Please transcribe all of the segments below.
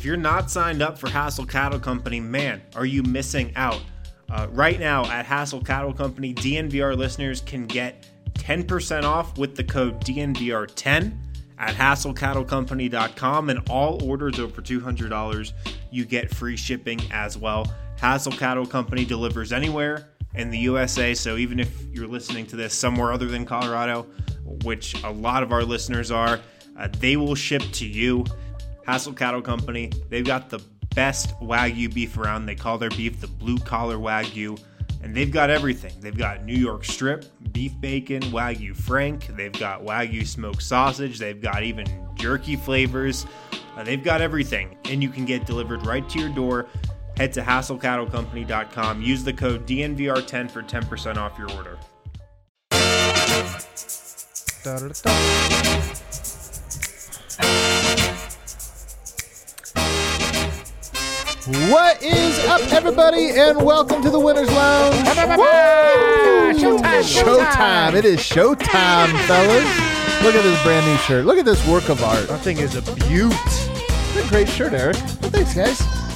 if you're not signed up for Hassel Cattle Company, man, are you missing out? Right now at Hassel Cattle Company, DNVR listeners can get 10% off with the code DNVR10 at HassleCattleCompany.com, and all orders over $200, you get free shipping as well. Hassel Cattle Company delivers anywhere in the USA, so even if you're listening to this somewhere other than Colorado, which a lot of our listeners are, they will ship to you. Hassel Cattle Company, they've got the best Wagyu beef around. They call their beef the blue collar Wagyu, and they've got everything. They've got New York strip, beef bacon, Wagyu Frank. They've got Wagyu smoked sausage. They've got even jerky flavors. They've got everything, and you can get delivered right to your door. Head to HassleCattleCompany.com. Use the code DNVR10 for 10% off your order. What is up, everybody, and welcome to the Winner's Lounge. Showtime. It is showtime, fellas. Look at this brand new shirt. Look at this work of art. That thing is a beaut. It's a great shirt, Eric. Well, thanks, guys.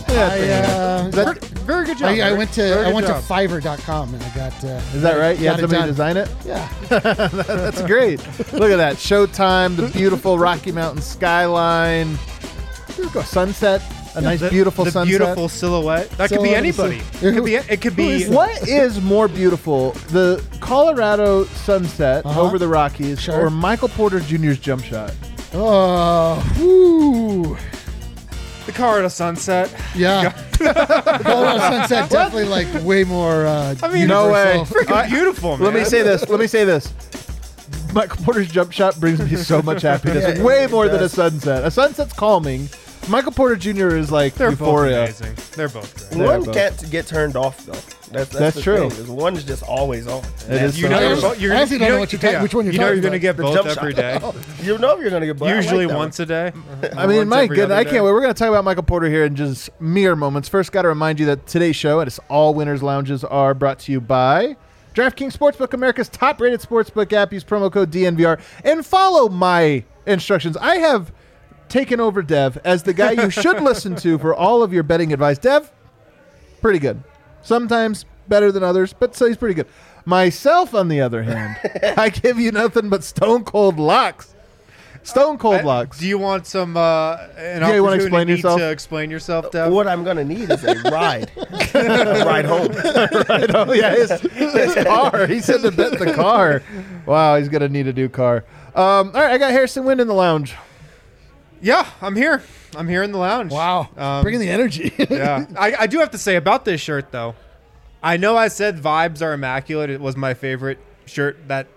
Very good job. I went to Fiverr.com and I got. Is that right? You had somebody design it? Yeah. That's great. Look at that. Showtime, the beautiful Rocky Mountain skyline. Let's go sunset. A nice, beautiful sunset. The beautiful silhouette. That could be anybody. It could be. What is more beautiful, the Colorado sunset over the Rockies, or Michael Porter Jr.'s jump shot? Oh, whoo. The Colorado sunset. Yeah. The Colorado sunset definitely like way more. No way. Freaking beautiful, man. Let me say this. Michael Porter's jump shot brings me so much happiness. Way more than a sunset. A sunset's calming. Michael Porter Jr. is like They're euphoria. Both amazing. They're both great. One can't get turned off though. That's true. One is just always on. It is. You know, I honestly don't know which one you're you know talking you're going to get The both jump every shot. day. You know you're gonna get both. Usually once a day. I mean, Once my every goodness, other I can't day. wait. We're going to talk about Michael Porter here in just mere moments. First, got to remind you that today's show, and it's all Winners Lounges, are brought to you by DraftKings Sportsbook, America's top-rated sportsbook app. Use promo code DNVR and follow my instructions. I have taken over Dev as the guy you should listen to for all of your betting advice. Dev, pretty good. Sometimes better than others, but so he's pretty good. Myself, on the other hand, I give you nothing but stone cold locks. Stone cold locks. Do you want some you opportunity wanna explain yourself? to explain yourself, Dev? What I'm gonna need is a ride, a ride home. Right. Oh yeah, his car. He said to bet the car. Wow, he's gonna need a new car. All right, I got Harrison Wind in the lounge. Yeah, I'm here. I'm here in the lounge. Wow. Bringing the energy. Yeah. I do have to say about this shirt, though. I know I said vibes are immaculate. It was my favorite shirt that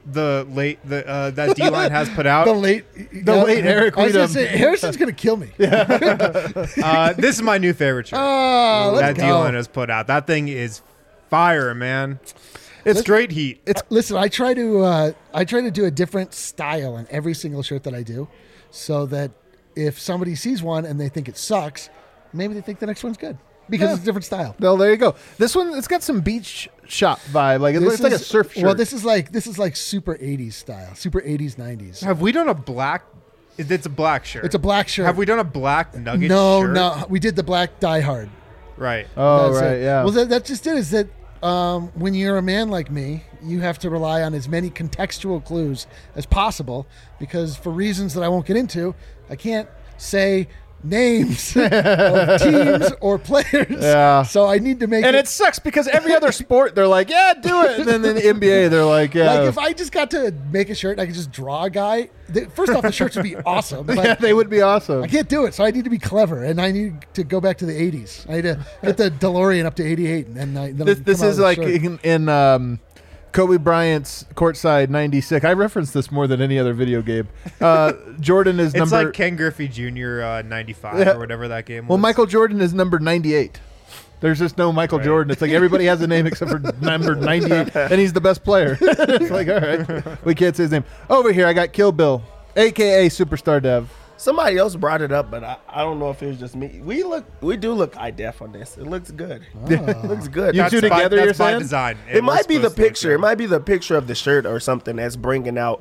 that D-Line has put out. The late Eric I was gonna Weedham. say, Harrison's going to kill me. This is my new favorite shirt Oh, that let's go. D-Line has put out. That thing is fire, man. It's straight heat. Listen, I try to do a different style in every single shirt that I do, so that if somebody sees one and they think it sucks, maybe they think the next one's good because it's a different style. Well, there you go. This one, it's got some beach shop vibe. Like it's like a surf shirt. Well, this is like super 80s style, super 80s 90s. Have we done a black? It's a black shirt. It's a black shirt. Have we done a black nugget shirt? No, we did the black Die Hard. Right. Oh, That's right, it. yeah. Well, that just it is that when you're a man like me, you have to rely on as many contextual clues as possible because for reasons that I won't get into, I can't say names of teams or players. Yeah. So I need to make And it sucks because every other sport, they're like, yeah, do it. And then in the NBA, they're like, yeah. like if I just got to make a shirt and I could just draw a guy, first off, the shirts would be awesome. But yeah, they would be awesome. I can't do it, so I need to be clever, and I need to go back to the 80s. I need to get the DeLorean up to 88, and then I This is like in Kobe Bryant's courtside 96. I reference this more than any other video game. Jordan is It's number... like Ken Griffey Jr. 95 or whatever that game was. Well, Michael Jordan is number 98. There's just no Michael Jordan. It's like everybody has a name except for number 98, and he's the best player. It's like, all right, we can't say his name. Over here, I got Kill Bill, a.k.a. Superstar Dev. Somebody else brought it up, but I don't know if it was just me. We do look high def on this. It looks good. It looks good. You two together, that's you're by saying? design. It might be the supposed to look picture. It might be the picture of the shirt or something that's bringing out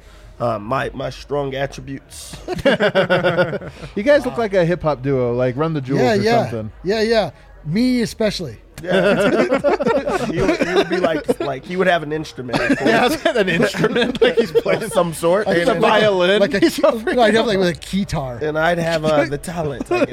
my strong attributes. You guys look like a hip hop duo, like Run the Jewels or something. Yeah. Me especially. Yeah. he would be like he would have an instrument. Yeah, an instrument like he's playing of some sort. like a and, violin. Like I'd have like with a guitar. and I'd have the talent, I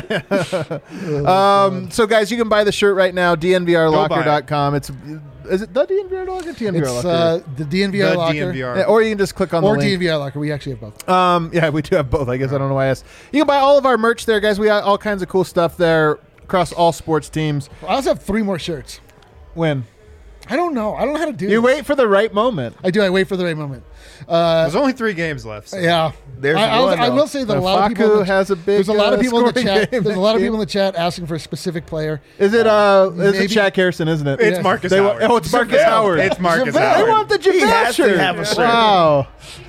guess. So guys, you can buy the shirt right now, dnvrlocker.com. Is it the DNVR Locker? DNVR It's Locker. the DNVR Locker. DNVR. Yeah, or you can just click on the Or link. DNVR Locker. We actually have both. Yeah, we do have both. I guess I don't know why I asked. You can buy all of our merch there, guys. We got all kinds of cool stuff there across all sports teams. I also have 3 more shirts. When? I don't know. I don't know how to do You this. wait for the right moment. I do. I wait for the right moment. There's only 3 games left. So. Yeah. There's I one, will say that a lot of people Facu in the, has a big there's a lot of people in the scoring chat. game There's a that lot of game. people in the chat asking for a specific player. Is it it's Maybe. Shaq Harrison, isn't it? It's Yeah. Marcus They Howard. it's Marcus JaVale. Howard. It's Marcus JaVale. They Howard. want the He JaVale has to shirt. have a shirt. Wow.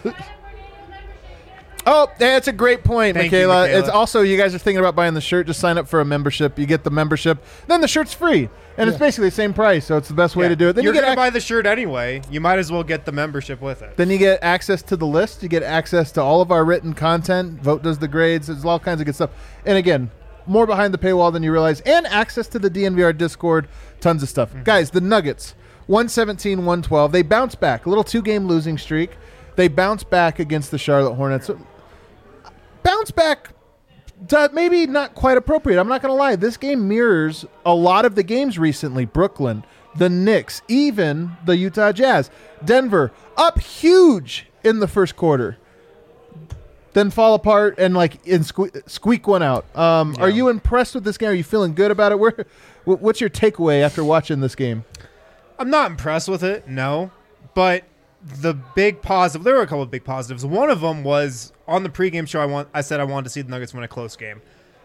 Oh, that's a great point, Thank you, Michaela. Michaela. It's also, you guys are thinking about buying the shirt, just sign up for a membership. You get the membership, then the shirt's free. And it's basically the same price, so it's the best way to do it. Then You're you going get to buy the shirt anyway. You might as well get the membership with it. Then you get access to the list. You get access to all of our written content. Vote does the grades. There's all kinds of good stuff. And again, more behind the paywall than you realize. And access to the DNVR Discord. Tons of stuff. Guys, the Nuggets, 117-112. They bounce back. A little 2-game losing streak. They bounce back against the Charlotte Hornets. Bounce back, maybe not quite appropriate. I'm not going to lie. This game mirrors a lot of the games recently. Brooklyn, the Knicks, even the Utah Jazz. Denver, up huge in the first quarter. Then fall apart and squeak one out. Are you impressed with this game? Are you feeling good about it? What's your takeaway after watching this game? I'm not impressed with it, no. But the big positive, there were a couple of big positives. One of them was on the pregame show, I said I wanted to see the Nuggets win a close game.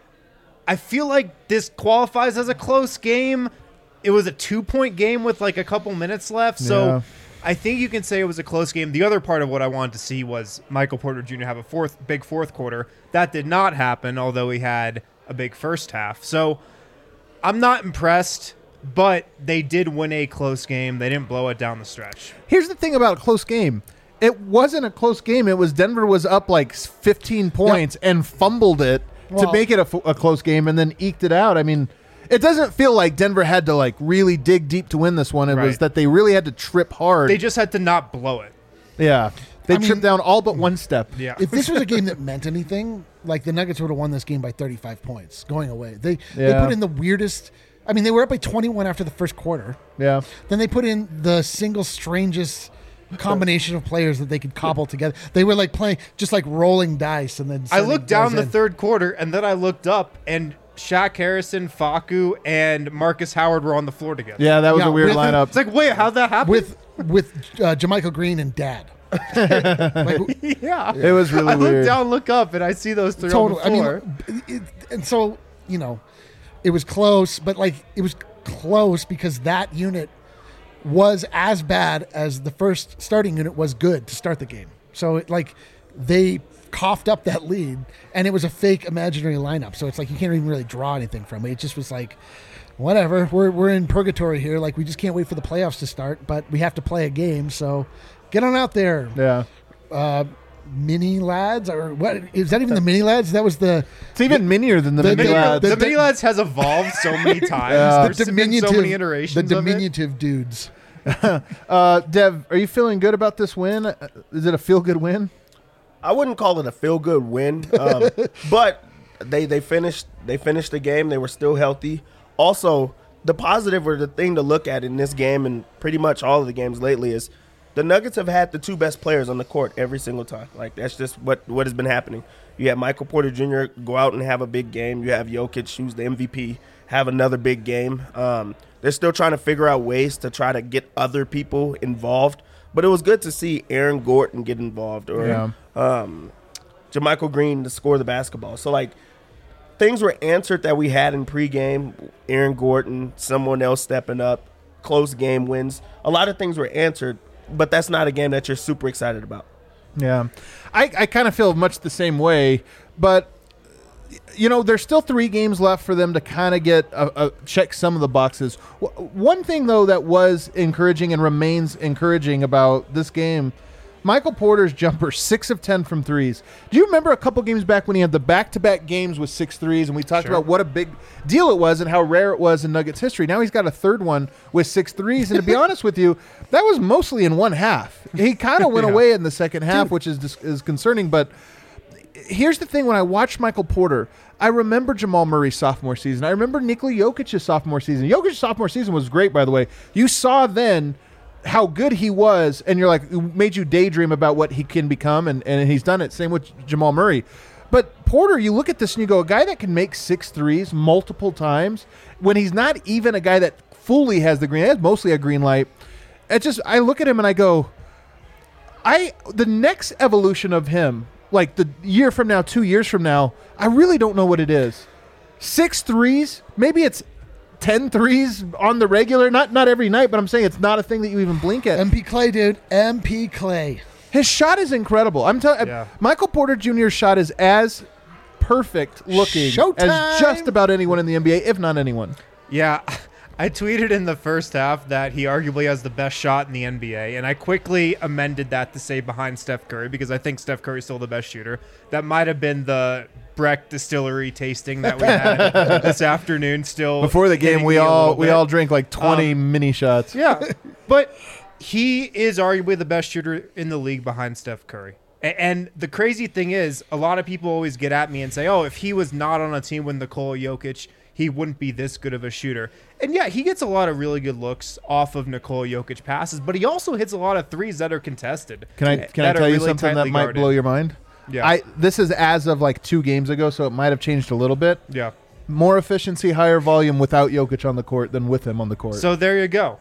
I feel like this qualifies as a close game. It was a 2-point game with a couple minutes left. So Yeah. I think you can say it was a close game. The other part of what I wanted to see was Michael Porter Jr. have a big fourth quarter. That did not happen, although he had a big first half. So I'm not impressed, but they did win a close game. They didn't blow it down the stretch. Here's the thing about a close game. It wasn't a close game. It was Denver was up 15 points and fumbled it to make it a close game and then eked it out. I mean, it doesn't feel like Denver had to really dig deep to win this one. It was that they really had to trip hard. They just had to not blow it. Yeah. They tripped down all but one step. Yeah. If this was a game that meant anything, the Nuggets would have won this game by 35 points going away. They put in the weirdest. I mean, they were up by 21 after the first quarter. Yeah. Then they put in the single strangest combination of players that they could cobble together. They were playing just rolling dice, and then I looked down the in. third quarter, and then I looked up, and Shaq Harrison, Facu, and Marcus Howard were on the floor together. Yeah, that was a weird with- lineup. It's wait, how'd that happen? with Jermichael Green and Dad. yeah. It was really I look weird. down, look up, and I see those three on the floor. And so it was close, but it was close because that unit was as bad as the first starting unit was good to start the game. So they coughed up that lead, and it was a fake imaginary lineup. So it's you can't even really draw anything from it. It just was whatever. We're in purgatory here. We just can't wait for the playoffs to start, but we have to play a game. So get on out there. Yeah. Mini lads, or what is that even the mini lads? That was the It's even minier than the the- mini the- lads. The mini lads has evolved so many times. Yeah. There's been so many iterations the of it. diminutive dudes. Dev, are you feeling good about this win? Is it a feel-good win? I wouldn't call it a feel-good win, but they finished the game. They were still healthy. Also, the positive or the thing to look at in this game and pretty much all of the games lately is the Nuggets have had the 2 best players on the court every single time. That's just what has been happening. You have Michael Porter Jr. go out and have a big game. You have Jokic, who's the MVP, have another big game. They're still trying to figure out ways to try to get other people involved. But it was good to see Aaron Gordon get involved or JaMychal Green to score the basketball. So, things were answered that we had in pregame. Aaron Gordon, someone else stepping up, close game wins. A lot of things were answered, but that's not a game that you're super excited about. Yeah. I kind of feel much the same way, but there's still 3 games left for them to kind of get check some of the boxes. One thing though that was encouraging and remains encouraging about this game, Michael Porter's jumper, 6 of 10 from threes. Do you remember a couple games back when he had the back-to-back games with 6 threes, and we talked about what a big deal it was and how rare it was in Nuggets history? Now he's got a third one with 6 threes, and to be honest with you, that was mostly in one half. He kind of went away in the second half, which is concerning, but here's the thing. When I watched Michael Porter, I remember Jamal Murray's sophomore season. I remember Nikola Jokic's sophomore season. Jokic's sophomore season was great, by the way. You saw then how good he was, and you're like, it made you daydream about what he can become, and he's done it. Same with Jamal Murray. But Porter, you look at this and you go, a guy that can make 6 threes multiple times, when he's not even a guy that fully has the green, he has mostly a green light. I look at him and I go, the next evolution of him, like the year from now, 2 years from now, I really don't know what it is. 6 threes, maybe it's 10 threes on the regular, not every night, but I'm saying it's not a thing that you even blink at. MP Clay, dude. MP Clay. His shot is incredible. I'm telling you, Michael Porter Jr.'s shot is as perfect looking as just about anyone in the NBA, if not anyone. Yeah, I tweeted in the first half that he arguably has the best shot in the NBA, and I quickly amended that to say behind Steph Curry, because I think Steph Curry's still the best shooter. That might have been the Breck Distillery tasting that we had this afternoon. Still before the game, we all drank like 20 mini shots. Yeah, but he is arguably the best shooter in the league behind Steph Curry. And the crazy thing is, a lot of people always get at me and say, "Oh, if he was not on a team with Nikola Jokic, he wouldn't be this good of a shooter." And yeah, he gets a lot of really good looks off of Nikola Jokic passes, but he also hits a lot of threes that are contested. Can I tell you something that might blow your mind? Yeah. This is as of like 2 games ago, so it might have changed a little bit. Yeah. More efficiency, higher volume without Jokic on the court than with him on the court. So there you go.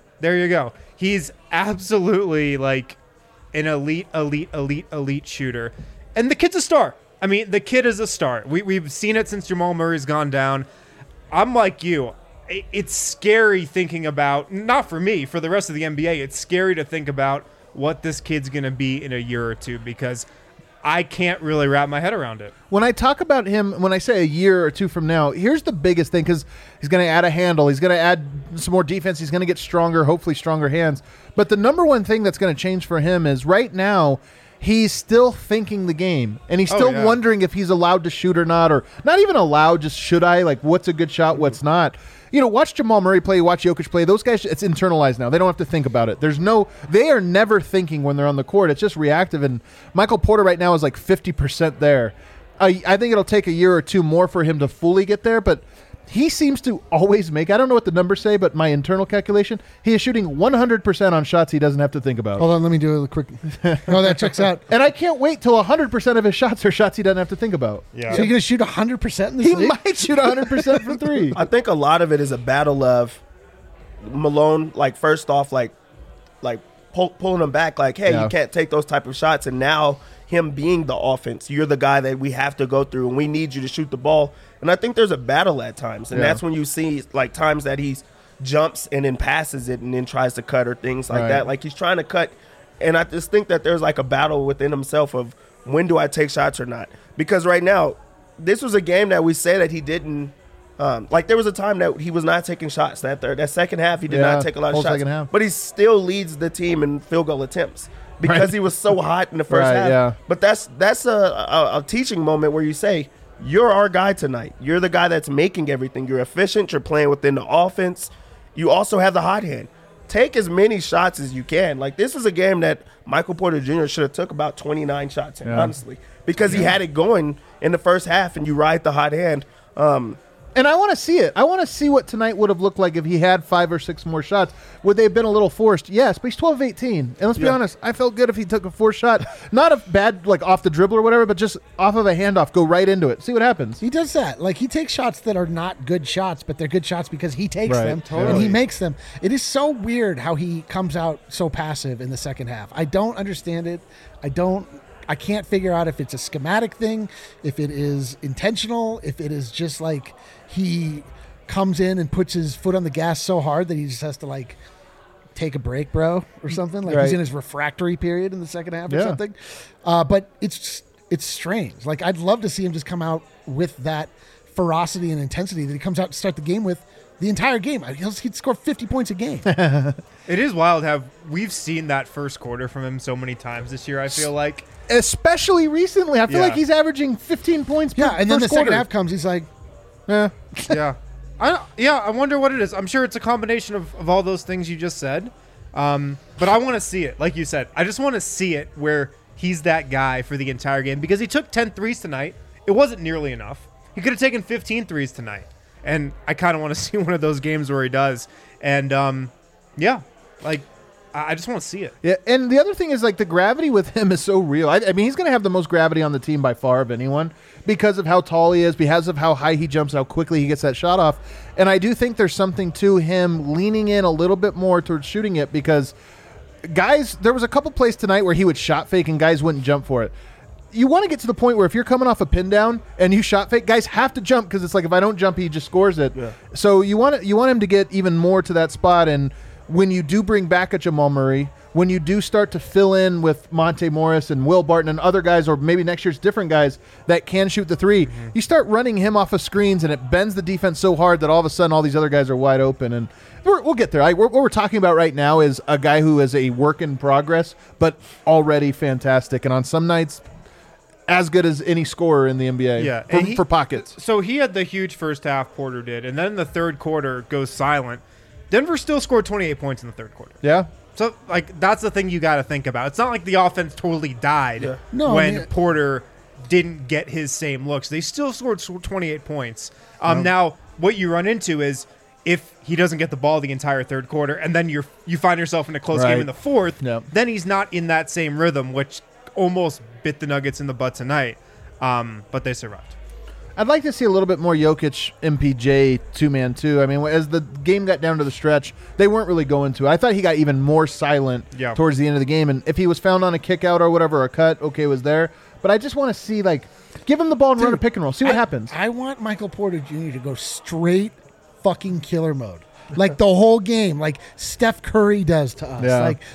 He's absolutely like an elite shooter. And the kid's a star. I mean, the kid is a star. We've seen it since Jamal Murray's gone down. I'm like you. It's scary thinking about, not for me, for the rest of the NBA, it's scary to think about what this kid's going to be in a year or two, because I can't really wrap my head around it. When I talk about him, when I say a year or two from now, here's the biggest thing, because he's going to add a handle. He's going to add some more defense. He's going to get stronger, hopefully stronger hands. But the number one thing that's going to change for him is right now he's still thinking the game, and he's still wondering if he's allowed to shoot or not, or not even allowed, just should I? Like, what's a good shot, what's not? You know, watch Jamal Murray play, watch Jokic play. Those guys, it's internalized now. They don't have to think about it. They are never thinking when they're on the court. It's just reactive. And Michael Porter right now is like 50% there. I think it'll take a year or two more for him to fully get there, but he seems to always make, I don't know what the numbers say, but my internal calculation, he is shooting 100% on shots he doesn't have to think about. Hold on, let me do a quick. No, that checks out. And I can't wait till 100% of his shots are shots he doesn't have to think about. Yeah. So you're going to shoot 100% in this He league? might shoot 100% from 3. I think a lot of it is a battle of Malone, like, first off, like pulling him back, like, hey, you can't take those type of shots. And now him being the offense, you're the guy that we have to go through, and we need you to shoot the ball. And I think there's a battle at times, and that's when you see, like, times that he jumps and then passes it and then tries to cut or things like that. Like, he's trying to cut, and I just think that there's, like, a battle within himself of when do I take shots or not? Because right now, this was a game that we say that he didn't like, there was a time that he was not taking shots. That second half, he did not take a lot of shots. But he still leads the team in field goal attempts because he was so hot in the first half. Yeah. But that's a teaching moment where you say, you're our guy tonight. You're the guy that's making everything. You're efficient. You're playing within the offense. You also have the hot hand. Take as many shots as you can. Like, this is a game that Michael Porter Jr. should have took about 29 shots in, honestly, because he had it going in the first half, and you ride the hot hand. And I want to see it. I want to see what tonight would have looked like if he had 5 or 6 more shots. Would they have been a little forced? Yes, but he's 12 of 18. And let's be honest, I felt good if he took a 4th shot. Not a bad, like, off the dribble or whatever, but just off of a handoff, go right into it. See what happens. He does that. Like, he takes shots that are not good shots, but they're good shots because he takes them and he makes them. It is so weird how he comes out so passive in the second half. I don't understand it. I can't figure out if it's a schematic thing, if it is intentional, if it is just like he comes in and puts his foot on the gas so hard that he just has to, like, take a break, bro, or something. Like, he's in his refractory period in the second half or something. But it's strange. Like, I'd love to see him just come out with that ferocity and intensity that he comes out to start the game with the entire game. He'd score 50 points a game. It is wild how we've seen that first quarter from him so many times this year, I feel like. Especially recently. I feel like he's averaging 15 points per And then the first quarter. second half comes, he's like, Yeah. Yeah. I wonder what it is. I'm sure it's a combination of all those things you just said. But I want to see it. Like you said, I just want to see it where he's that guy for the entire game because he took 10 threes tonight. It wasn't nearly enough. He could have taken 15 threes tonight. And I kind of want to see one of those games where he does. And, I just want to see it. Yeah, and the other thing is, like, the gravity with him is so real. I mean, he's going to have the most gravity on the team by far of anyone because of how tall he is, because of how high he jumps, how quickly he gets that shot off. And I do think there's something to him leaning in a little bit more towards shooting it because guys, there was a couple plays tonight where he would shot fake and guys wouldn't jump for it. You want to get to the point where if you're coming off a pin down and you shot fake, guys have to jump because it's like if I don't jump, he just scores it. Yeah. So you want him to get even more to that spot. And when you do bring back a Jamal Murray, when you do start to fill in with Monte Morris and Will Barton and other guys, or maybe next year's different guys that can shoot the three, you start running him off of screens and it bends the defense so hard that all of a sudden all these other guys are wide open. And we'll get there. What we're talking about right now is a guy who is a work in progress, but already fantastic. And on some nights, as good as any scorer in the NBA. Yeah, for pockets. So he had the huge first half, Porter did, and then the third quarter goes silent. Denver still scored 28 points in the third quarter. Yeah. So, that's the thing you got to think about. It's not like the offense totally died when Porter didn't get his same looks. They still scored 28 points. Now, what you run into is if he doesn't get the ball the entire third quarter and then you find yourself in a close game in the fourth, then he's not in that same rhythm, which almost bit the Nuggets in the butt tonight. But they survived. I'd like to see a little bit more Jokic MPJ two-man too. I mean, as the game got down to the stretch, they weren't really going to. I thought he got even more silent towards the end of the game. And if he was found on a kick out or whatever, a cut, okay, was there. But I just want to see, give him the ball and run a pick and roll. See what happens. I want Michael Porter Jr. to go straight fucking killer mode. Like the whole game, like Steph Curry does to us. Yeah. Like,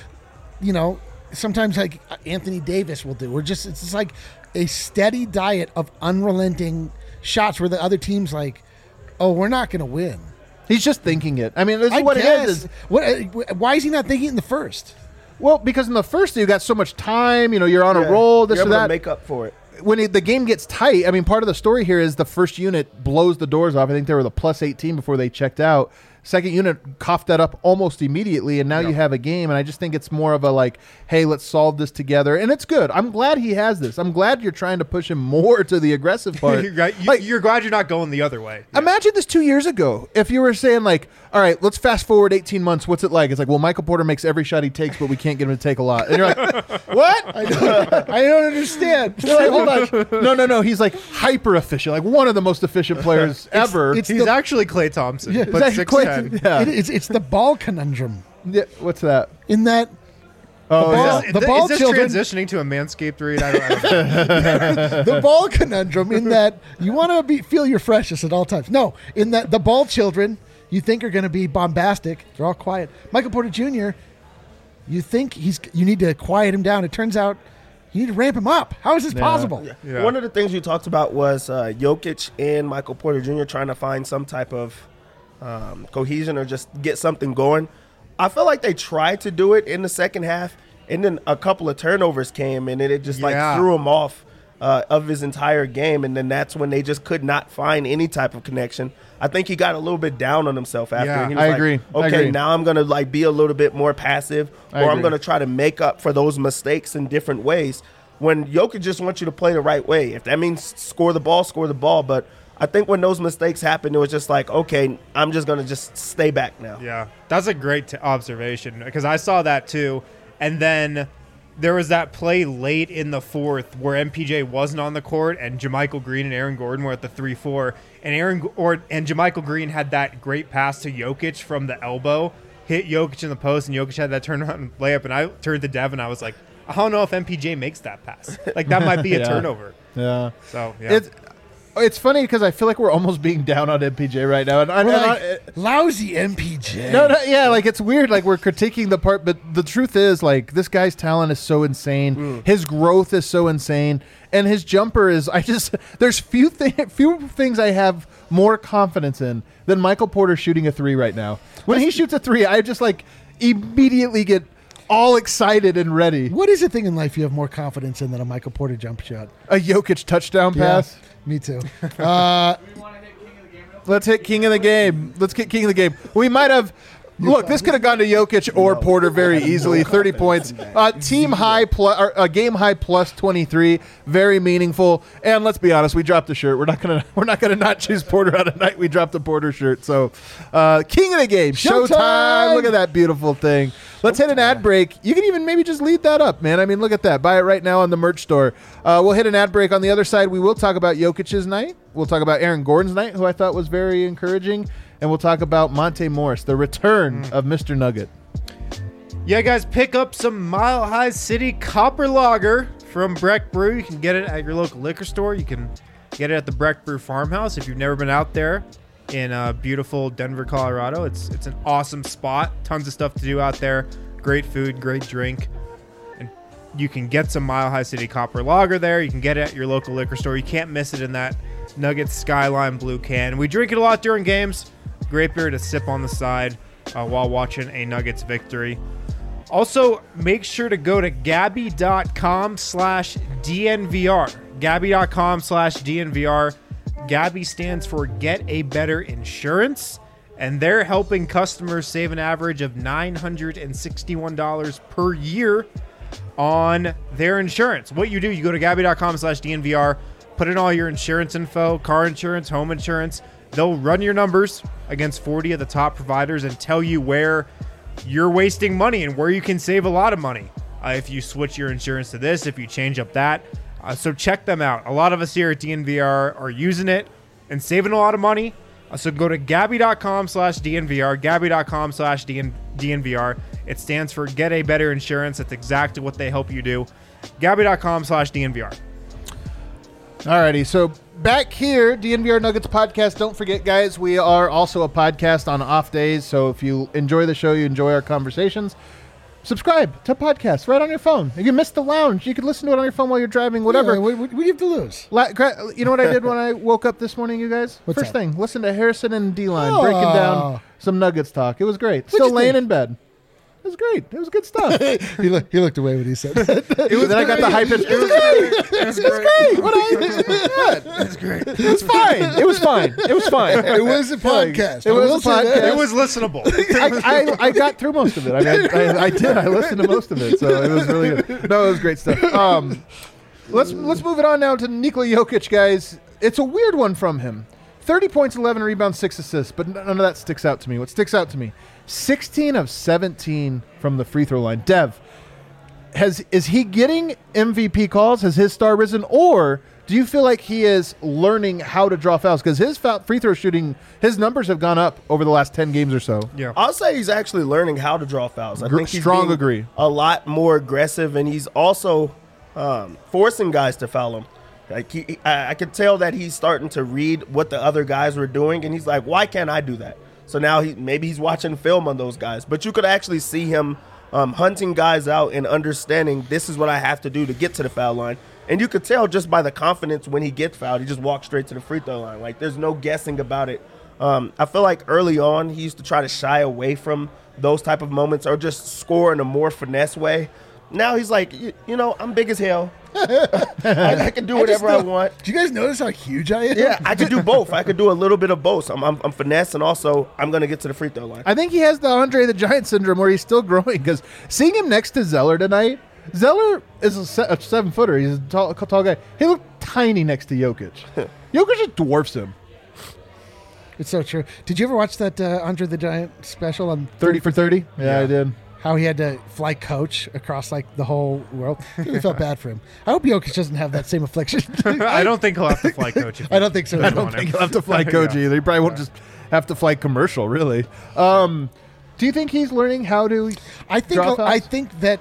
sometimes like Anthony Davis will do. It's just like a steady diet of unrelenting shots where the other team's like, oh, we're not going to win. He's just thinking it. I mean, this is what it is. Why is he not thinking it in the first? Well, because in the first you got so much time. You're on a roll. This you're or able that. to make up for it. When the game gets tight, I mean, part of the story here is the first unit blows the doors off. I think they were the plus 18 before they checked out. Second unit coughed that up almost immediately, and now you have a game. And I just think it's more of a hey, let's solve this together. And it's good. I'm glad he has this. I'm glad you're trying to push him more to the aggressive part. You're glad you're not going the other way. Yeah. Imagine this 2 years ago. If you were saying all right, let's fast forward 18 months. What's it like? It's like, well, Michael Porter makes every shot he takes, but we can't get him to take a lot. And you're like, what? I don't understand. You're like, hold on. No. He's hyper efficient, one of the most efficient players ever. He's actually Klay Thompson, but 6'10". Yeah. It's the ball conundrum. Yeah, what's that? In that is this transitioning to a Manscaped read? I don't know. The ball conundrum in that you want to feel your freshest at all times. No, in that the ball children you think are going to be bombastic. They're all quiet. Michael Porter Jr., you think you need to quiet him down. It turns out you need to ramp him up. How is this possible? Yeah. One of the things you talked about was Jokic and Michael Porter Jr. trying to find some type of cohesion or just get something going. I feel like they tried to do it in the second half, and then a couple of turnovers came, and it just threw him off of his entire game, and then that's when they just could not find any type of connection. I think he got a little bit down on himself after. Yeah, and he was I agree. Okay, now I'm going to be a little bit more passive, or I'm going to try to make up for those mistakes in different ways. When Jokic just wants you to play the right way, if that means score the ball, but I think when those mistakes happened, it was just okay, I'm just going to just stay back now. Yeah, that's a great observation because I saw that too. And then there was that play late in the fourth where MPJ wasn't on the court and JaMychal Green and Aaron Gordon were at the 3-4. And JaMychal Green had that great pass to Jokic from the elbow, hit Jokic in the post, and Jokic had that turnaround layup. And I turned to Dev and I was like, I don't know if MPJ makes that pass. That might be a turnover. Yeah. So, yeah. It's funny because I feel like we're almost being down on MPJ right now. Lousy MPJ. No, yeah, like it's weird. Like we're critiquing the part, but the truth is, like this guy's talent is so insane. His growth is so insane, and his jumper is. There's few things I have more confidence in than Michael Porter shooting a 3 right now. When he shoots a 3, I just like immediately get all excited and ready. What is the thing in life you have more confidence in than a Michael Porter jump shot? A Jokic touchdown pass. Me too. Let's hit king of the game. Let's get king of the game. We might have. Look, this could have gone to Jokic or Porter very easily. 30 points, team high plus, game high plus 23, very meaningful. And let's be honest, we dropped the shirt. We're not gonna not choose Porter out of night. We dropped the Porter shirt. So, king of the game, Showtime. Look at that beautiful thing. Let's hit an ad break. You can even maybe just lead that up, man. I mean, look at that. Buy it right now on the merch store. We'll hit an ad break. On the other side, we will talk about Jokic's night. We'll talk about Aaron Gordon's night, who I thought was very encouraging. And we'll talk about Monte Morris, the return of Mr. Nugget. Yeah, guys, pick up some Mile High City Copper Lager from Breck Brew. You can get it at your local liquor store. You can get it at the Breck Brew Farmhouse. If you've never been out there in beautiful Denver, Colorado, it's an awesome spot. Tons of stuff to do out there. Great food, great drink. And you can get some Mile High City Copper Lager there. You can get it at your local liquor store. You can't miss it in that Nuggets Skyline blue can. We drink it a lot during games. Great beer to sip on the side while watching a Nuggets victory. Also, make sure to go to Gabby.com/DNVR. Gabby.com/DNVR. Gabby stands for Get a Better Insurance, and they're helping customers save an average of $961 per year on their insurance. What you do, you go to Gabby.com/DNVR, put in all your insurance info, car insurance, home insurance. They'll run your numbers against 40 of the top providers and tell you where you're wasting money and where you can save a lot of money if you switch your insurance to this, if you change up that. So check them out. A lot of us here at DNVR are using it and saving a lot of money. So go to Gabby.com/DNVR, Gabby.com/DNVR. It stands for Get a Better Insurance. That's exactly what they help you do. Gabby.com/DNVR. Alrighty, so back here, DNVR Nuggets podcast. Don't forget, guys, we are also a podcast on off days. So if you enjoy the show, you enjoy our conversations, subscribe to podcasts right on your phone. If you missed the lounge, you can listen to it on your phone while you're driving, whatever. Yeah, what do you have to lose? You know what I did when I woke up this morning, you guys? What's First that? thing, listen to Harrison and D-Line breaking down some Nuggets talk. It was great. What'd Still you laying think? in bed. It was great. It was good stuff. He looked away when he said that. Then I got the hype. It was great. It was great. That's great. It was fine. It was fine. It was fine. It was a podcast. It was a say that. podcast. It was listenable. I got through most of it. I mean, I did. I listened to most of it, so it was really good. No, it was great stuff. Let's move it on now to Nikola Jokic, guys. It's a weird one from him. 30 points, 11 rebounds, 6 assists, but none of that sticks out to me. What sticks out to me, 16 of 17 from the free throw line. Dev, is he getting MVP calls? Has his star risen? Or do you feel like he is learning how to draw fouls? Because his free throw shooting, his numbers have gone up over the last 10 games or so. Yeah. I'll say he's actually learning how to draw fouls. I think he's Strong being agree. a lot more aggressive, and he's also forcing guys to foul him. Like I could tell that he's starting to read what the other guys were doing, and he's like, why can't I do that? So now maybe he's watching film on those guys. But you could actually see him hunting guys out and understanding this is what I have to do to get to the foul line. And you could tell just by the confidence when he gets fouled, he just walks straight to the free throw line. Like there's no guessing about it. I feel like early on he used to try to shy away from those type of moments or just score in a more finesse way. Now he's like, I'm big as hell. I can do whatever I want. Do you guys notice how huge I am? Yeah, I could do both. I could do a little bit of both. I'm finesse, and also I'm going to get to the free throw line. I think he has the Andre the Giant syndrome where he's still growing, because seeing him next to Zeller tonight, Zeller is a 7-footer. He's a tall guy. He looked tiny next to Jokic. Jokic just dwarfs him. It's so true. Did you ever watch that Andre the Giant special on 30 for 30? Yeah, I did. How he had to fly coach across like the whole world? I really felt bad for him. I hope Jokic doesn't have that same affliction. I don't think he'll have to fly coach. I don't think so. I don't think he'll have to fly coach either. He probably won't just have to fly commercial, really. Do you think he's learning how to draw fouls? I think that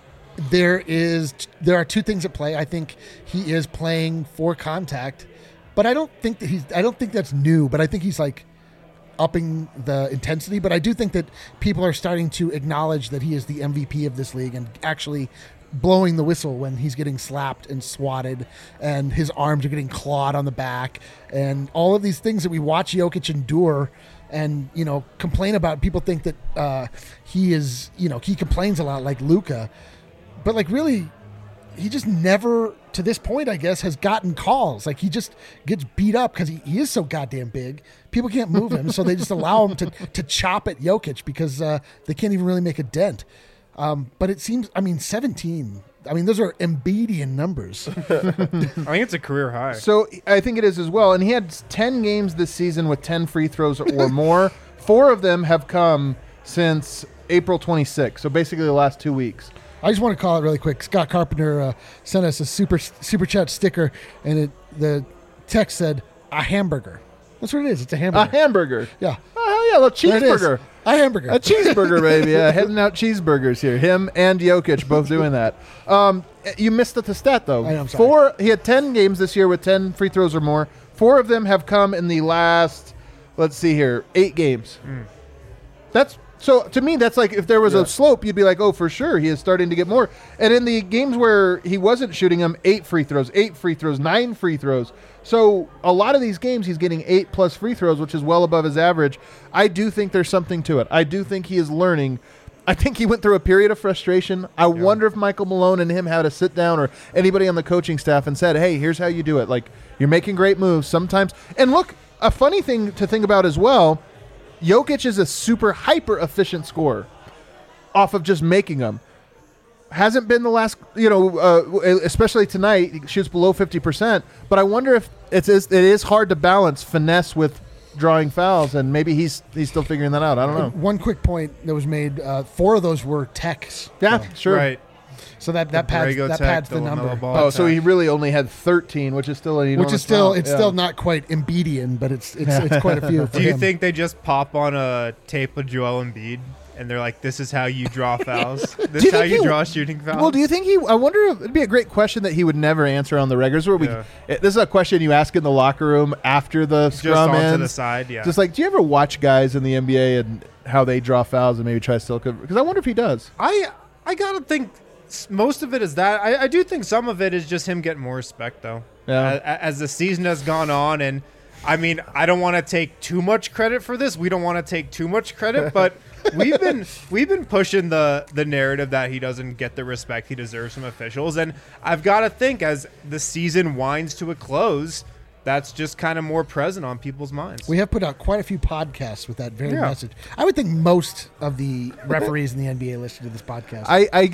there are two things at play. I think he is playing for contact But I don't think that's new. But I think he's like upping the intensity. But I do think that people are starting to acknowledge that he is the MVP of this league and actually blowing the whistle when he's getting slapped and swatted and his arms are getting clawed on the back and all of these things that we watch Jokic endure and, complain about. People think that he is, he complains a lot like Luka, but like really he just never to this point, I guess, has gotten calls. Like he just gets beat up because he is so goddamn big. People can't move him. So they just allow him to chop at Jokic because they can't even really make a dent. But it seems, 17. Those are Embiidian numbers. I think it's a career high. So I think it is as well. And he had 10 games this season with 10 free throws or more. 4 of them have come since April 26th. So basically the last 2 weeks. I just want to call it really quick. Scott Carpenter sent us a super chat sticker, and the text said, a hamburger. That's what it is. It's a hamburger. A hamburger. Yeah. Oh, yeah, a cheeseburger. A hamburger. A cheeseburger, baby. Heading out cheeseburgers here. Him and Jokic both doing that. You missed the stat, though. I know, I'm sorry. He had 10 games this year with 10 free throws or more. 4 of them have come in the last, 8 games. So to me, that's like if there was a slope, you'd be like, oh, for sure, he is starting to get more. And in the games where he wasn't shooting them, 8 free throws, 9 free throws. So a lot of these games, he's getting 8+ free throws, which is well above his average. I do think there's something to it. I do think he is learning. I think he went through a period of frustration. I wonder if Michael Malone and him had to sit down or anybody on the coaching staff and said, hey, here's how you do it. Like, you're making great moves sometimes. And look, a funny thing to think about as well, Jokic is a super hyper efficient scorer off of just making them. Hasn't been the last, especially tonight, he shoots below 50%. But I wonder if it is hard to balance finesse with drawing fouls, and maybe he's still figuring that out. I don't know. One quick point that was made: 4 of those were techs. Yeah, sure. Right. So that pads the number. So he really only had 13, which is still an enormous amount. Still not quite Embiidian, but it's quite a few. For Do you him. think they just pop on a tape of Joel Embiid and they're like, "This is how you draw fouls. This is how you draw shooting fouls"? Well, do you think I wonder if it'd be a great question that he would never answer on the regulars. This is a question you ask in the locker room after the scrum ends. Just to the side, yeah. Just like, do you ever watch guys in the NBA and how they draw fouls and maybe try to still cover? Because I wonder if he does. I gotta think. Most of it is that. I do think some of it is just him getting more respect, though. Yeah. As the season has gone on, and I don't want to take too much credit for this. We don't want to take too much credit, but we've been pushing the narrative that he doesn't get the respect he deserves from officials, and I've got to think as the season winds to a close, that's just kind of more present on people's minds. We have put out quite a few podcasts with that very message. I would think most of the referees in the NBA listen to this podcast.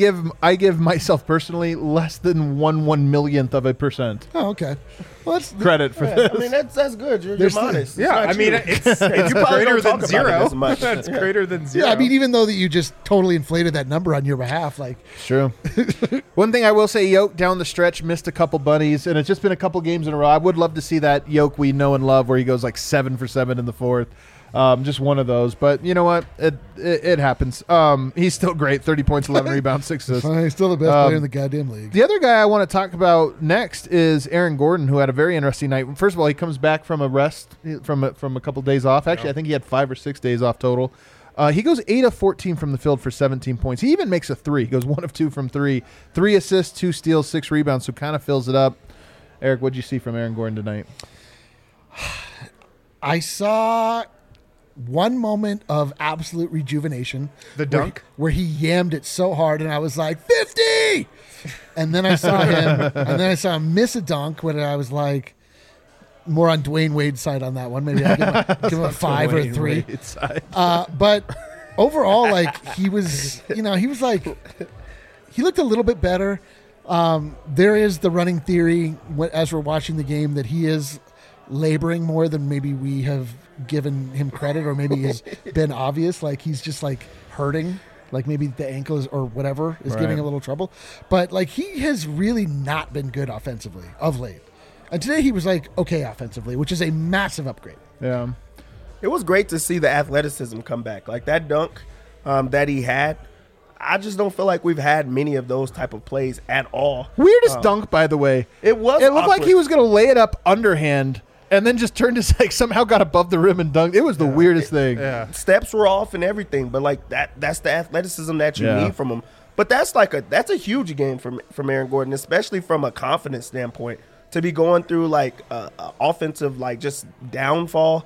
I give myself personally less than 1/1,000,000th of a percent. Oh, okay. Well, that's credit for this. That's good. You're modest. Yeah, it's greater than zero. That's greater than zero. Yeah, even though that you just totally inflated that number on your behalf, like true. One thing I will say, Yoke down the stretch missed a couple bunnies, and it's just been a couple games in a row. I would love to see that Yoke we know and love, where he goes like 7 for 7 in the fourth. Just one of those, but you know what? It happens. He's still great. 30 points, 11 rebounds, 6 assists. He's still the best player in the goddamn league. The other guy I want to talk about next is Aaron Gordon, who had a very interesting night. First of all, he comes back from a rest from a couple days off. Actually, I think he had 5 or 6 days off total. He goes 8 of 14 from the field for 17 points. He even makes a 3. He goes 1 of 2 from 3. 3 assists, 2 steals, 6 rebounds, so kind of fills it up. Eric, what did you see from Aaron Gordon tonight? I saw one moment of absolute rejuvenation. The dunk? Where he yammed it so hard, and I was like, 50! And then I saw him miss a dunk when I was like, more on Dwayne Wade's side on that one. Maybe I'll give him a 5 or a 3. But overall, like, he looked a little bit better. There is the running theory as we're watching the game that he is laboring more than maybe we have given him credit, or maybe has been obvious. Like, he's just like hurting, like maybe the ankle is, or whatever is giving a little trouble. But like, he has really not been good offensively of late. And today he was like okay offensively, which is a massive upgrade. Yeah. It was great to see the athleticism come back. Like that dunk that he had, I just don't feel like we've had many of those type of plays at all. Weirdest dunk, by the way. It was. It looked like he was going to lay it up underhand, and then just turned his somehow got above the rim and dunked. It was the weirdest thing. Yeah. Steps were off and everything, but like that's the athleticism that you need from him. But that's a huge game from Aaron Gordon, especially from a confidence standpoint, to be going through like offensive like just downfall,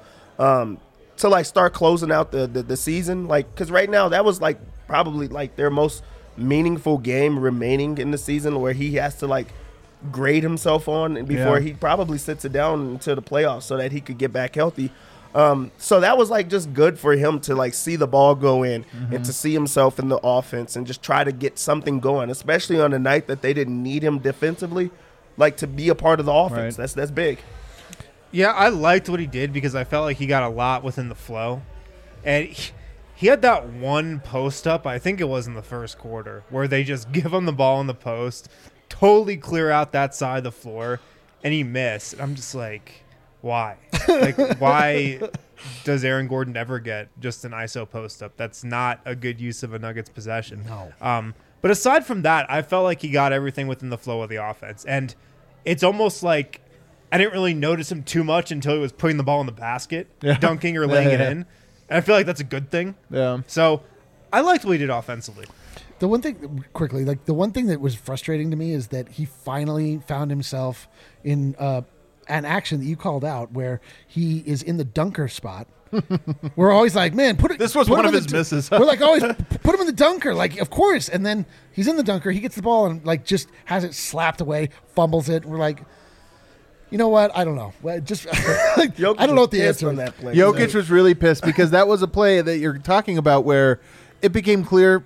to like start closing out the season, like because right now that was like probably like their most meaningful game remaining in the season where he has to like grade himself on before he probably sits it down until the playoffs so that he could get back healthy. So that was like just good for him to like see the ball go in and to see himself in the offense and just try to get something going, especially on a night that they didn't need him defensively, like to be a part of the offense. Right. That's big. Yeah, I liked what he did because I felt like he got a lot within the flow. And he had that one post up, I think it was in the first quarter, where they just give him the ball in the post, totally clear out that side of the floor, and he missed. I'm just like, why? Like, why does Aaron Gordon ever get just an ISO post up? That's not a good use of a Nuggets possession. No. But aside from that, I felt like he got everything within the flow of the offense. And it's almost like I didn't really notice him too much until he was putting the ball in the basket, dunking or laying it in. And I feel like that's a good thing. Yeah. So I liked what he did offensively. The one thing, quickly, like the one thing that was frustrating to me is that he finally found himself in an action that you called out where he is in the dunker spot. We're always like, man, put it. This was put one him of in his the misses. We're like, always put him in the dunker, like of course. And then he's in the dunker, he gets the ball and like just has it slapped away, fumbles it. We're like, you know what? I don't know. Just like, I don't know what the answer on is. that play. Jokic was really pissed because that was a play that you're talking about where it became clear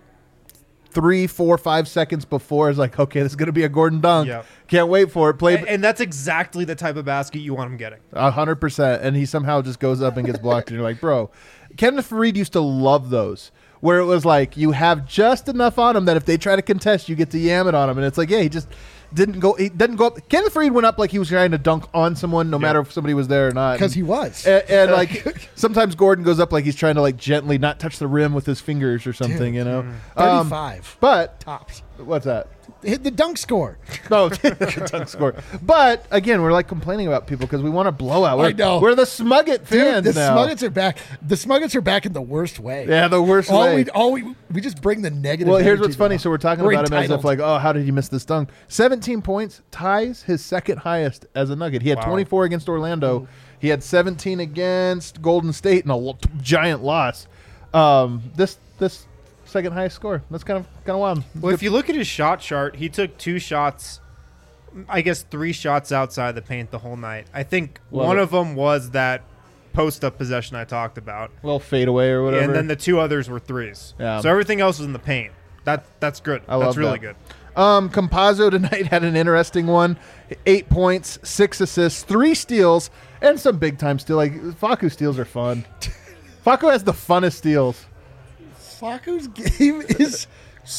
3, 4, 5 seconds before. It's like, okay, this is going to be a Gordon dunk. Yep. Can't wait for it. Play And that's exactly the type of basket you want him getting. 100%. And he somehow just goes up and gets blocked. And you're like, bro, Kenneth Faried used to love those where it was like you have just enough on him that if they try to contest, you get to yam it on him. And it's like, yeah, he just didn't go. He doesn't go up. Kenneth Faried went up like he was trying to dunk on someone, no matter if somebody was there or not. Because he was. And like sometimes Gordon goes up like he's trying to like gently not touch the rim with his fingers or something, you know. 35 But tops. what's that? Hit the dunk score. No, dunk score. But again, we're like complaining about people because we want a blowout. I know. We're the Smugget fans Dude, the now. Smuggets are back. The Smuggets are back in the worst way. Yeah, the worst way. We just bring the negative. Well, here's energy what's funny. now. So we're talking We're about him as if entitled. like, oh, how did he miss this dunk? 17 points, tis his second highest as a Nugget. He had 24 against Orlando. He had 17 against Golden State in a giant loss. This second highest score. That's kind of wild. Well, if you look at his shot chart, he took 2 shots, I guess 3 shots outside the paint the whole night. I think one of them was that post-up possession I talked about. little fadeaway or whatever. And then the 2 others were 3s. Yeah. So everything else was in the paint. That's good. I love That's really that. good. Compazzo tonight had an interesting one. 8 points, 6 assists, 3 steals, and some big time steal. Like Facu steals are fun. Facu has the funnest steals. Facu's game is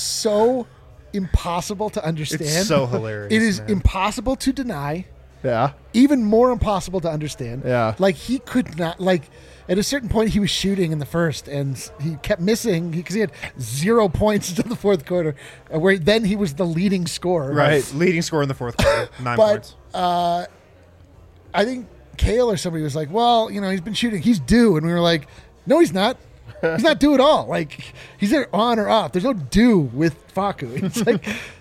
so impossible to understand. It's so hilarious. It is man. impossible to deny. Yeah. Even more impossible to understand. Yeah. Like he could not. Like at a certain point, he was shooting in the first, and he kept missing because he had 0 points until the fourth quarter, where then he was the leading scorer. Right. Leading scorer in the fourth quarter. 9 points. But I think Kale or somebody was like, "Well, you know, he's been shooting. He's due," and we were like, "No, he's not." He's not due at all. Like he's either on or off. There's no due with Facu. It's like,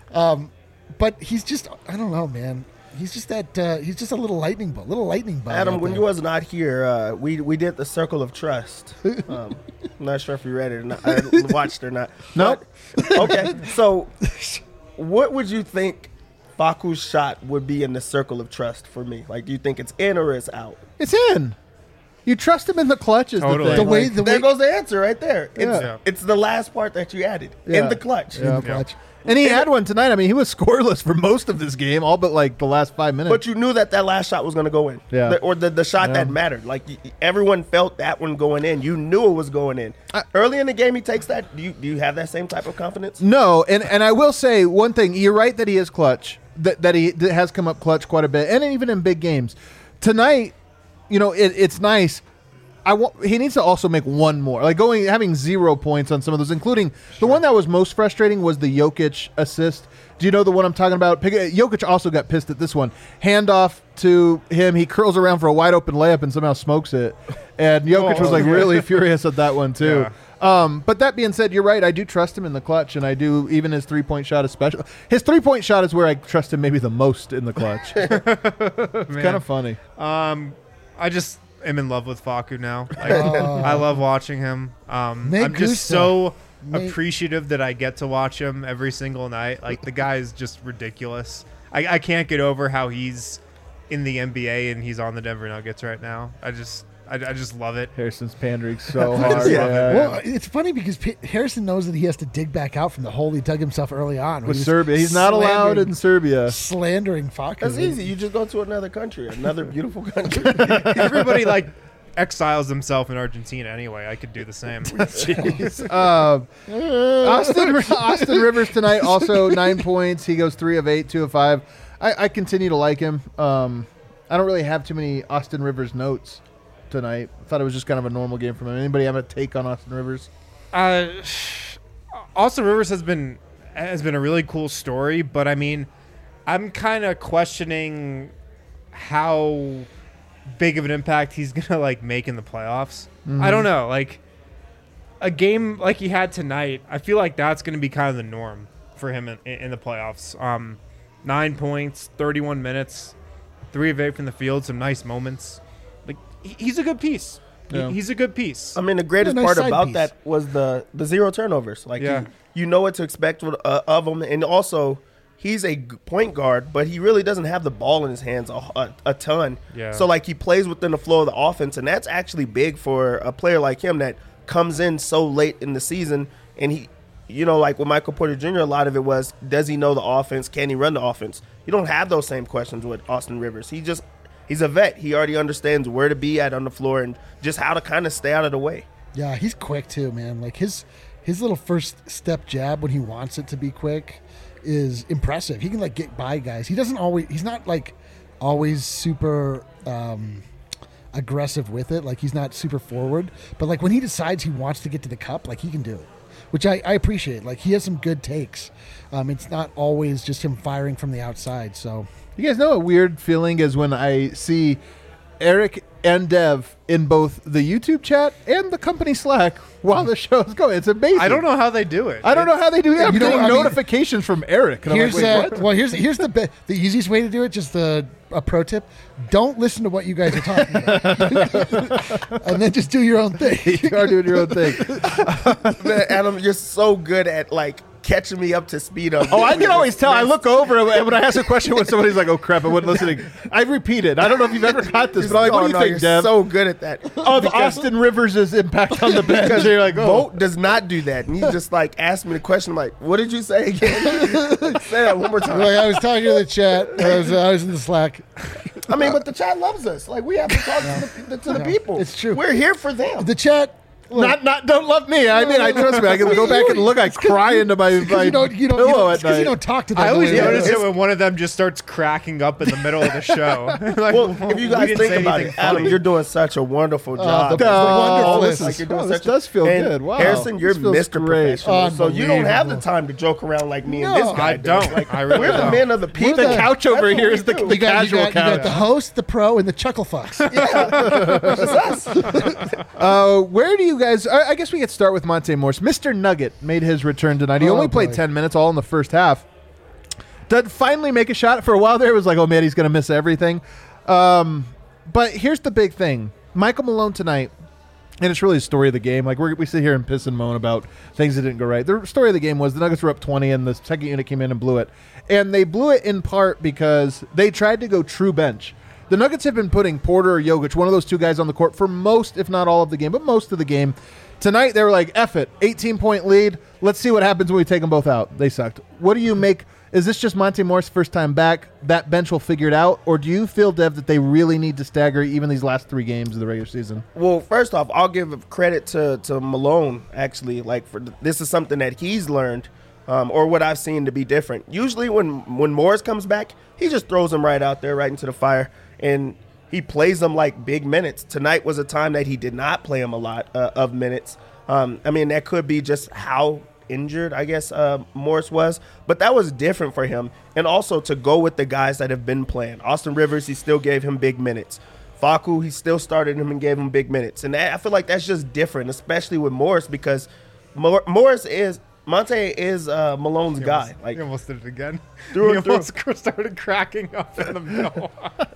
but he's just, I don't know, man. He's just that. He's just a little lightning bug. Adam, out when there. you was not here, we did the Circle of Trust. I'm not sure if you read it or not, watched it or not. Nope. But, okay, so what would you think Facu's shot would be in the Circle of Trust for me? Like, do you think it's in or it's out? It's in. You trust him in the clutch is Totally. the thing. There goes the answer right there. Yeah. It's the last part that you added Yeah. in the clutch. Yeah. Clutch. And he had one tonight. I mean, he was scoreless for most of this game, all but like the last 5 minutes. But you knew that last shot was going to go in. Yeah. Or the shot that mattered. Like, everyone felt that one going in. You knew it was going in. Early in the game, he takes that. Do you have that same type of confidence? No, and I will say one thing. You're right that he is clutch, that he has come up clutch quite a bit, and even in big games. Tonight, you know, it's nice. he needs to also make one more. Like having 0 points on some of those, including the one that was most frustrating was the Jokic assist. Do you know the one I'm talking about? Jokic also got pissed at this one. Handoff to him. He curls around for a wide open layup and somehow smokes it. And Jokic was really furious at that one too. Yeah. But that being said, you're right. I do trust him in the clutch, and I do even his 3-point shot especially. His 3-point shot is where I trust him maybe the most in the clutch. It's kind of funny. I just am in love with Facu now. I love watching him. I'm just so appreciative that I get to watch him every single night. Like, the guy is just ridiculous. I can't get over how he's in the NBA and he's on the Denver Nuggets right now. I just love it. Harrison's pandering so hard. Well, it's funny because Harrison knows that he has to dig back out from the hole he dug himself early on. With Serbia. He's not allowed in Serbia. Slandering Facu. That's easy. You just go to another country, another beautiful country. Everybody, exiles himself in Argentina anyway. I could do the same. Austin Rivers tonight, also 9 points. He goes 3 of 8, 2 of 5. I continue to like him. I don't really have too many Austin Rivers notes tonight. I thought it was just kind of a normal game from him. Anybody have a take on Austin Rivers? Austin Rivers has been a really cool story, but I mean, I'm kind of questioning how big of an impact he's gonna make in the playoffs. Mm-hmm. I don't know. A game like he had tonight, I feel like that's gonna be kind of the norm for him in the playoffs. 9 points, 31 minutes, 3 of 8 from the field, some nice moments. He's a good piece. Yeah. He's a good piece. I mean, the greatest part about that was the 0 turnovers. You know what to expect of him, and also he's a point guard, but he really doesn't have the ball in his hands a ton. Yeah. So he plays within the flow of the offense, and that's actually big for a player like him that comes in so late in the season. And he, with Michael Porter Jr., a lot of it was, does he know the offense? Can he run the offense? You don't have those same questions with Austin Rivers. He's a vet. He already understands where to be at on the floor and just how to kind of stay out of the way. Yeah, he's quick too, man. His little first step jab when he wants it to be quick is impressive. He can get by guys. He's not always super aggressive with it. He's not super forward, but when he decides he wants to get to the cup, he can do it, which I appreciate. He has some good takes. It's not always just him firing from the outside. So you guys know a weird feeling is when I see Eric and Dev in both the YouTube chat and the company Slack while the show is going. It's amazing. I don't know how they do it. I don't know how they do it. I'm getting notifications from Eric. And here's what? Well, here's the easiest way to do it. Just a pro tip: don't listen to what you guys are talking about, and then just do your own thing. You are doing your own thing. Man, Adam, you're so good at catching me up to speed on. Oh, I can always tell. I look over and when I ask a question when somebody's like, "Oh crap, I wasn't listening." I repeat it. I don't know if you've ever got this, but what do you think, Dev? So good at that. Of Austin Rivers' impact on the bench. Because Vogt does not do that, and he just asked me the question. I'm like, "What did you say again?" Say that one more time. I was talking to the chat. I was in the Slack. I mean, but the chat loves us. We have to talk to the people. It's true. We're here for them. The chat. Look, don't love me. I mean, I trust me. I can go back and look. I cry into my pillow at night. You don't talk to them. I always notice it when one of them just starts cracking up in the middle of the show. If you guys think about it, Adam, you're doing such a wonderful job. This does feel good. Wow, Harrison, you're Mr. Professional, so you don't have the time to joke around like me and this guy. I don't. I really we're don't. The men of the people. The couch over here is the casual couch. You got the host, the pro, and the chuckle fucks. Where do you guys? I guess we could start with Monte Morris. Mr. Nugget made his return tonight. He only played 10 minutes, all in the first half. Did finally make a shot. For a while there, it was oh man, he's going to miss everything. But here's the big thing: Michael Malone tonight, and it's really the story of the game. We sit here and piss and moan about things that didn't go right. The story of the game was the Nuggets were up 20, and the second unit came in and blew it. And they blew it in part because they tried to go true bench. The Nuggets have been putting Porter or Jokic, one of those two guys, on the court for most, if not all of the game, but most of the game. Tonight, they were like, F it, 18-point lead. Let's see what happens when we take them both out. They sucked. What do you make? Is this just Monte Morris' first time back? That bench will figure it out? Or do you feel, Dev, that they really need to stagger even these last 3 games of the regular season? Well, first off, I'll give credit to Malone, actually. This is something that he's learned, or what I've seen to be different. Usually when Morris comes back, he just throws him right out there, right into the fire. And he plays them like big minutes. Tonight was a time that he did not play him a lot of minutes. I mean, that could be just how injured, I guess, Morris was, but that was different for him. And also to go with the guys that have been playing. Austin Rivers, he still gave him big minutes. Facu, he still started him and gave him big minutes. And I feel like that's just different, especially with Morris, because Monte is Malone's guy. Like, he almost did it again. Through He and through. almost started cracking up in the middle.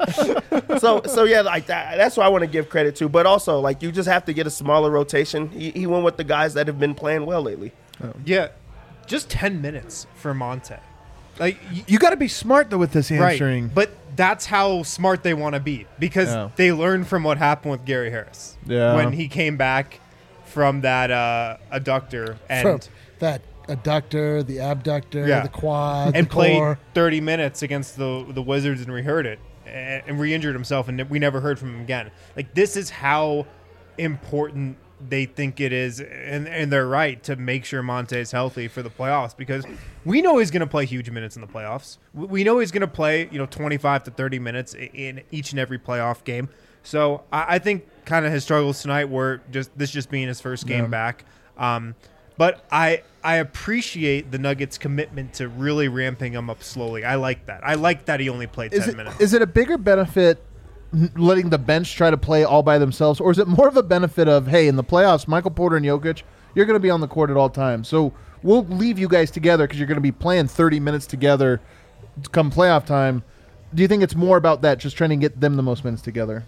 so yeah, like that's what I want to give credit to. But also, like, you just have to get a smaller rotation. He went with the guys that have been playing well lately. Yeah, just 10 minutes for Monte. Like, You got to be smart though with this hamstring. right, but that's how smart they want to be, because Yeah. they learned from what happened with Gary Harris when he came back from that adductor and From that adductor, the abductor, Yeah. the quad, and the played core. 30 minutes against the Wizards and rehurt it and re-injured himself, and we never heard from him again. Like, this is how important they think it is, and they're right to make sure Monte is healthy for the playoffs, because we know he's going to play huge minutes in the playoffs. We know he's going to play 25 to 30 minutes in each and every playoff game. So I think kind of his struggles tonight were just being his first game back. But I appreciate the Nuggets' commitment to really ramping him up slowly. I like that. I like that he only played 10 minutes. Is it a bigger benefit letting the bench try to play all by themselves, or is it more of a benefit of, hey, in the playoffs, Michael Porter and Jokic, you're going to be on the court at all times, so we'll leave you guys together because you're going to be playing 30 minutes together come playoff time? Do you think it's more about that, just trying to get them the most minutes together?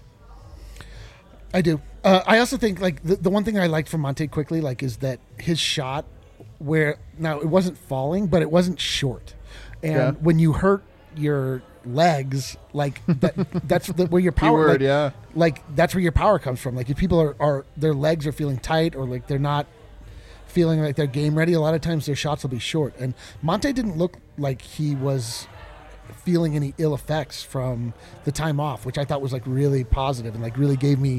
I do. I also think, like, the one thing I liked from Monte quickly, like, is that his shot, where now it wasn't falling, but it wasn't short, and Yeah. when you hurt your legs, like that's where your power, Keyword, like that's where your power comes from. Like, if people are their legs are feeling tight, or like they're not feeling like they're game ready, a lot of times their shots will be short. And Monte didn't look like he was feeling any ill effects from the time off, which I thought was like really positive and like really gave me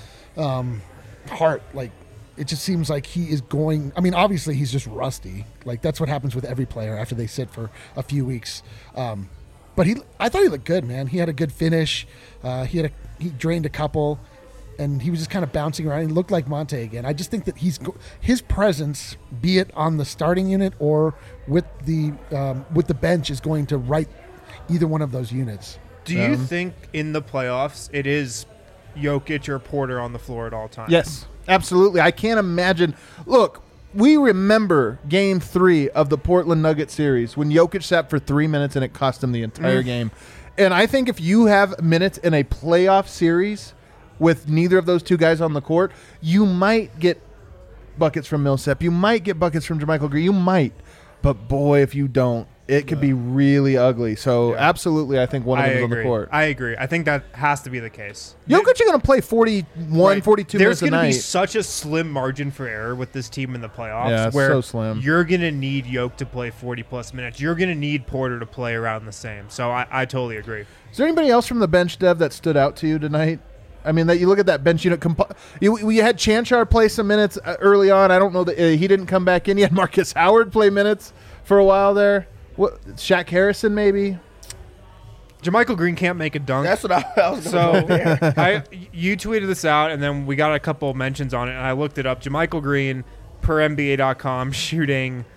heart. Like, it just seems like he is going. I mean, obviously he's just rusty. Like, that's what happens with every player after they sit for a few weeks. But I thought he looked good, man. He had a good finish. He drained a couple, and he was just kind of bouncing around. He looked like Monte again. I just think that his presence, be it on the starting unit or with the bench, is going to right either one of those units. Do you think in the playoffs it is Jokic or Porter on the floor at all times? Yes, absolutely. I can't imagine. Look, we remember Game 3 of the Portland Nuggets series when Jokic sat for 3 minutes and it cost him the entire game. And I think if you have minutes in a playoff series with neither of those two guys on the court, you might get buckets from Millsap. You might get buckets from JaMychal Green. You might. But, boy, if you don't, it could be really ugly. So, absolutely, I think one of them is on the court. I agree. I think that has to be the case. Jokic is going to play 41, 42 There's minutes a going to be night. such a slim margin for error with this team in the playoffs. Yeah, it's where so slim. You're going to need Jokic to play 40-plus minutes. You're going to need Porter to play around the same. So I totally agree. Is there anybody else from the bench, Dev, that stood out to you tonight? I mean, that you look at that bench unit. We had Chanchar play some minutes early on. I don't know that he didn't come back in. You had Marcus Howard play minutes for a while there. What, Shaq Harrison maybe? JaMychal Green can't make a dunk. That's what I was So going there. you tweeted this out, and then we got a couple of mentions on it, and I looked it up. JaMychal Green, per NBA.com, shooting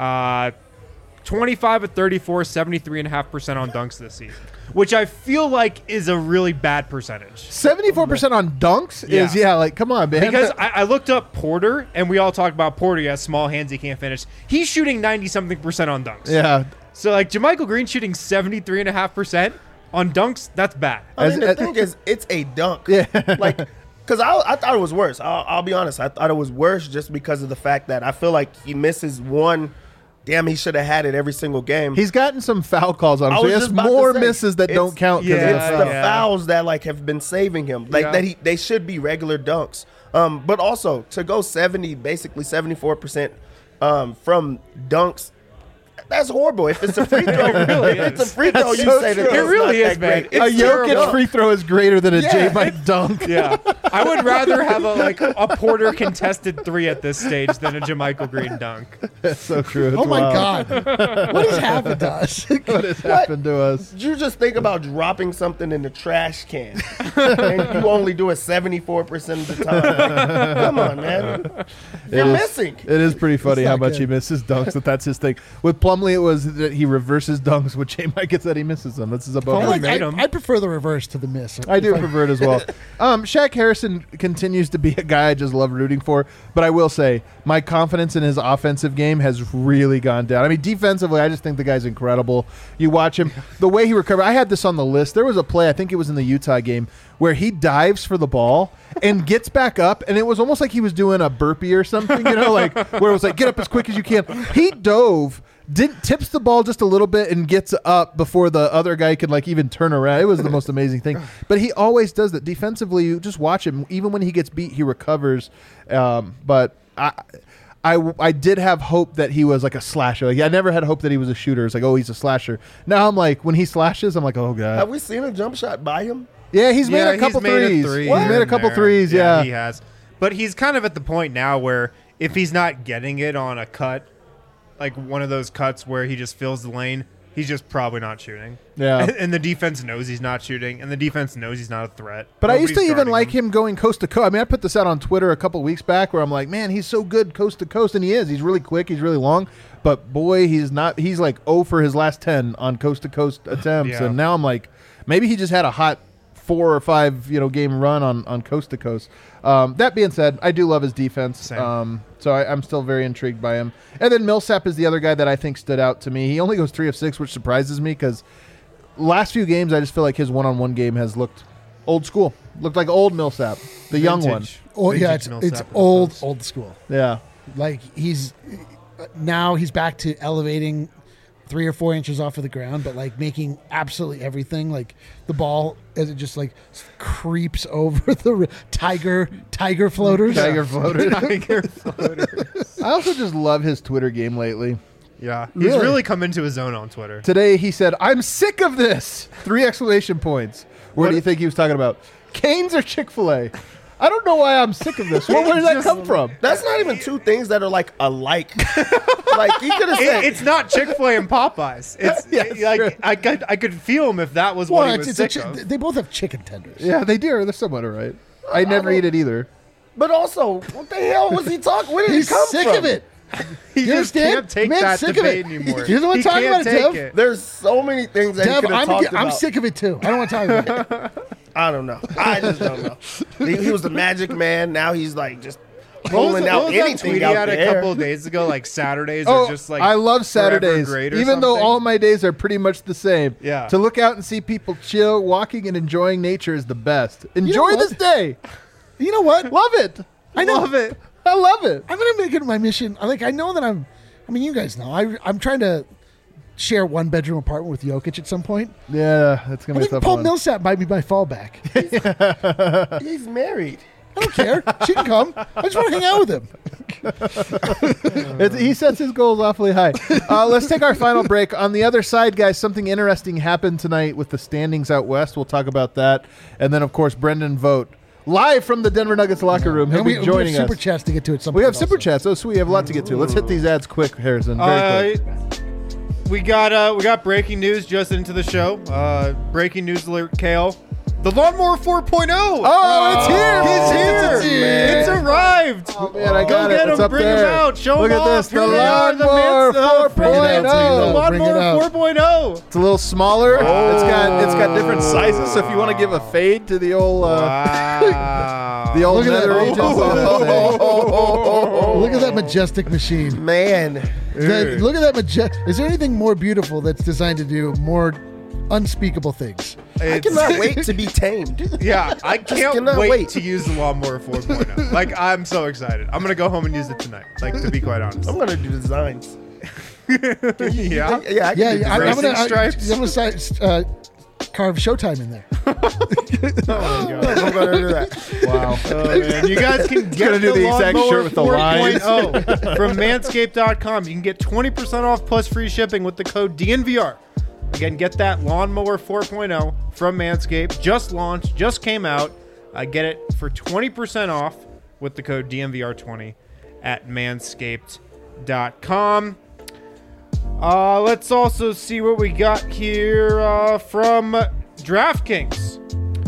25 of 34, 73.5% on dunks this season, which I feel like is a really bad percentage. 74% on dunks is, like, come on, man. Because I looked up Porter, and we all talk about Porter. He has small hands, he can't finish. He's shooting 90-something% on dunks. yeah. So, like, JaMychal Green shooting 73.5% on dunks, that's bad. I mean, the thing is, it's a dunk. Yeah. Like, because I thought it was worse. I'll be honest. I thought it was worse just because of the fact that I feel like he misses one. Damn, he should have had it every single game. He's gotten some foul calls on him, I so he was has just about to more say, misses that don't count. 'cause of the Yeah, It's foul. the fouls that like have been saving him. Like they should be regular dunks. But also to go 74% from dunks That's horrible. If it's a free throw, really if it's a is. free throw, That's you so say that true. that's It really not is, that man. great. It's A Jokic terrible. free throw is greater than a Yeah. J-Mike dunk. Yeah, I would rather have a Porter contested 3 at this stage than a JaMychal Green dunk. That's so true. It's Oh my wild. God! What has happened to us? What has happened to us? You just think about dropping something in the trash can, and you only do it 74% of the time. Like, come on, man. You're missing. It is pretty funny It's how not much good. he misses dunks. That's his thing. With Plumlee, it was that he reverses dunks. With J-Mike, it's that he misses them. That's his above. Plumlee I, made him. I prefer the reverse to the miss. I do prefer it as well. Shaq Harrison continues to be a guy I just love rooting for, but I will say my confidence in his offensive game has really gone down. I mean, defensively, I just think the guy's incredible. You watch him, the way he recovered. I had this on the list. There was a play, I think it was in the Utah game, where he dives for the ball and gets back up, and it was almost like he was doing a burpee or something, like where it was like, get up as quick as you can. He dove, tips the ball just a little bit and gets up before the other guy could even turn around. It was the most amazing thing. But he always does that. Defensively, you just watch him. Even when he gets beat, he recovers. But I did have hope that he was like a slasher. I never had hope that he was a shooter. It's like, oh, he's a slasher. Now I'm like, when he slashes, I'm like, oh, God. Have we seen a jump shot by him? Yeah, he's made a couple he's made threes. a three He's made a here and couple there. threes, yeah. He has. But he's kind of at the point now where if he's not getting it on a cut, like one of those cuts where he just fills the lane, he's just probably not shooting. Yeah. And the defense knows he's not shooting, and the defense knows he's not a threat. But I used to Nobody's even guarding like him going coast to coast. I mean, I put this out on Twitter a couple weeks back where I'm like, man, he's so good coast to coast. And he is. He's really quick. He's really long. But, boy, he's not. He's like 0 for his last 10 on coast to coast attempts. Yeah. And now I'm like, maybe he just had a hot 4 or 5 game run on coast to coast. That being said, I do love his defense. Same. So I'm still very intrigued by him. And then Millsap is the other guy that I think stood out to me. He only goes 3 of 6, which surprises me because last few games I just feel like his one-on-one game has looked old school. Looked like old Millsap, the young one. Vintage. Oh yeah, Vintage it's Millsap old defense. old school. Yeah. Like he's back to elevating 3 or 4 inches off of the ground, but like making absolutely everything. Like the ball as it just creeps over the tiger floaters. Tiger floater. Tiger floater. I also just love his Twitter game lately. Yeah. He's Really? really come into his own on Twitter. Today he said, "I'm sick of this." 3 exclamation points. What do you think he was talking about? Canes or Chick-fil-A? I don't know why I'm sick of this. Where did that come from? That's not even two things that are alike. Like he could have said, It's not Chick-fil-A and Popeyes. It's Yes, true. I could feel him if that was what he was sick of. they both have chicken tenders. Yeah, they do. They're somewhat all right. I never eat it either. but also, what the hell was he talking? Where did He's he come sick from? of it. He You just understand? can't take Man's that sick of debate it. anymore. You don't wanna He talk can't about it, take Dev? it. There's so many things that he Dev, could have talked I'm about. sick of it too. I don't want to talk about it. I don't know. I just don't know. He was the magic man. Now he's just What was pulling the- out what was that anything tweet he out had there. a couple of days ago? Like Saturdays Oh, are just I love forever Saturdays. great or Even though something. all my days are pretty much the same. Yeah. To look out and see people chill, walking and enjoying nature is the best. Enjoy what? this day. You know what? Love it. I know. Love it. I love it. I'm gonna make it my mission. I know that I mean, you guys know. I'm trying to share 1-bedroom apartment with Jokic at some point. Yeah, it's gonna I be a think tough Paul one. Millsap might be my fallback. He's married. I don't care. She can come. I just want to hang out with him. He sets his goals awfully high. Let's take our final break. On the other side, guys, something interesting happened tonight with the standings out west. We'll talk about that. And then, of course, Brendan Vogt, live from the Denver Nuggets locker room. He'll And be joining we have super us. chats to get to at some We point. have super also. chats. Oh, sweet. We have a lot to get to. Let's hit these ads quick, Harrison. Very quick. We got breaking news just into the show. Breaking news alert, Kale. The Lawnmower 4.0. Oh, it's here. He's here. It's here. It's arrived. Oh, man, I Go got get it. It's him. up Bring there. him out. Show Look him at off. this. The Here they are, the Lawnmower Mets, Bring it out, 4.0. The bring it Lawnmower out. 4.0. It's a little smaller. It's got different sizes. So if you want to give a fade to the old Wow. the old Look at that. nether regions, Look at that majestic machine. Man, Look at that majestic. Is there anything more beautiful that's designed to do more unspeakable things? I cannot wait to be tamed. Yeah, I can't cannot wait, wait. to use the Lawnmower 4.0. Like, I'm so excited. I'm going to go home and use it tonight, like, to be quite honest. I'm gonna do designs. Yeah. Yeah, I can do I'm designs. gonna stripes. I'm gonna carve Showtime in there. I'm gonna do that. Wow. Oh, man. You guys can get gonna do the exact Lawnmower shirt with the lines. 4.0 from manscaped.com. You can get 20% off plus free shipping with the code DNVR. Again, get that Lawnmower 4.0 from Manscaped. Just launched, just came out. Get it for 20% off with the code DNVR20 at manscaped.com. Let's also see what we got here from DraftKings.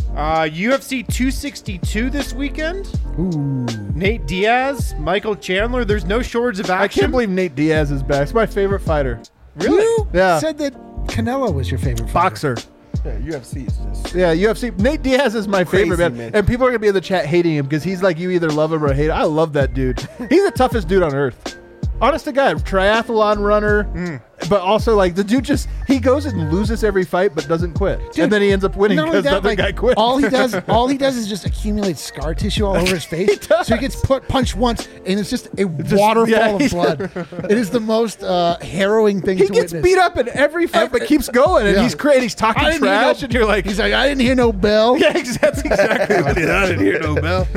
UFC 262 this weekend. Ooh. Nate Diaz, Michael Chandler. There's no shortage of I action. can't believe Nate Diaz is back. It's my favorite fighter. Really? You Yeah. said that Canelo was your favorite fighter. Boxer. Yeah, UFC is just. Yeah, UFC. Nate Diaz is my Crazy, favorite, man. man. And people are going to be in the chat hating him because he's like, you either love him or hate him. I love that dude. He's the toughest dude on earth. Honest to God, triathlon runner, but also like the dude he goes and loses every fight but doesn't quit. Dude, and then he ends up winning not only because the that, other guy quit. All he does is just accumulate scar tissue all over his face. does. So he gets punched once, and it's just a waterfall yeah, of blood. It is the most harrowing thing He to gets witness. beat up in every fight but keeps going. And Yeah. he's talking I didn't hear trash. no- And you're like, He's like, I didn't hear no bell. yeah, that's exactly what it is. I didn't hear no bell.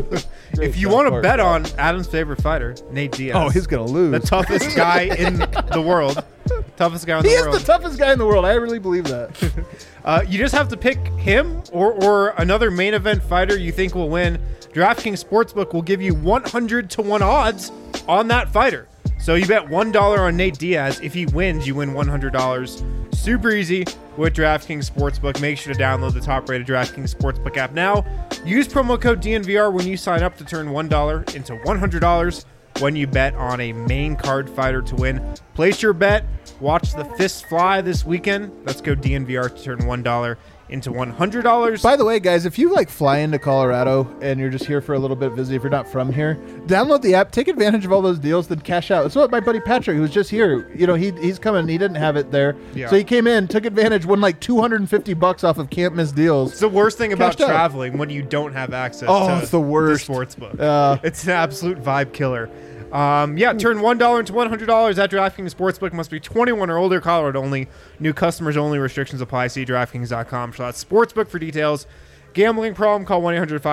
If you want to bet on Adam's favorite fighter, Nate Diaz. Oh, he's going to lose. the toughest guy in the world. Toughest guy in He the is world. the toughest guy in the world. I really believe that. You just have to pick him or another main event fighter you think will win. DraftKings Sportsbook will give you 100-1 odds on that fighter. So you bet $1 on Nate Diaz. If he wins, you win $100. Super easy with DraftKings Sportsbook. Make sure to download the top-rated DraftKings Sportsbook app now. Use promo code DNVR when you sign up to turn $1 into $100 when you bet on a main card fighter to win. Place your bet. Watch the fists fly this weekend. Let's go DNVR to turn $1 into $100. By the way, guys, if you like fly into Colorado and you're just here for a little bit visit, if you're not from here, download the app, take advantage of all those deals, then cash out. That's what my buddy Patrick, who was just here, he's coming. He didn't have it there, Yeah. so he came in, took advantage, won like $250 off of Can't Miss deals. It's the worst thing about Cashed out. traveling when you don't have access to It's the worst. the sportsbook. It's an absolute vibe killer. Turn $1 into $100 at DraftKings Sportsbook. Must be 21 or older. Colorado only. New customers only. Restrictions apply. See DraftKings.com/sportsbook for details. Gambling problem? Call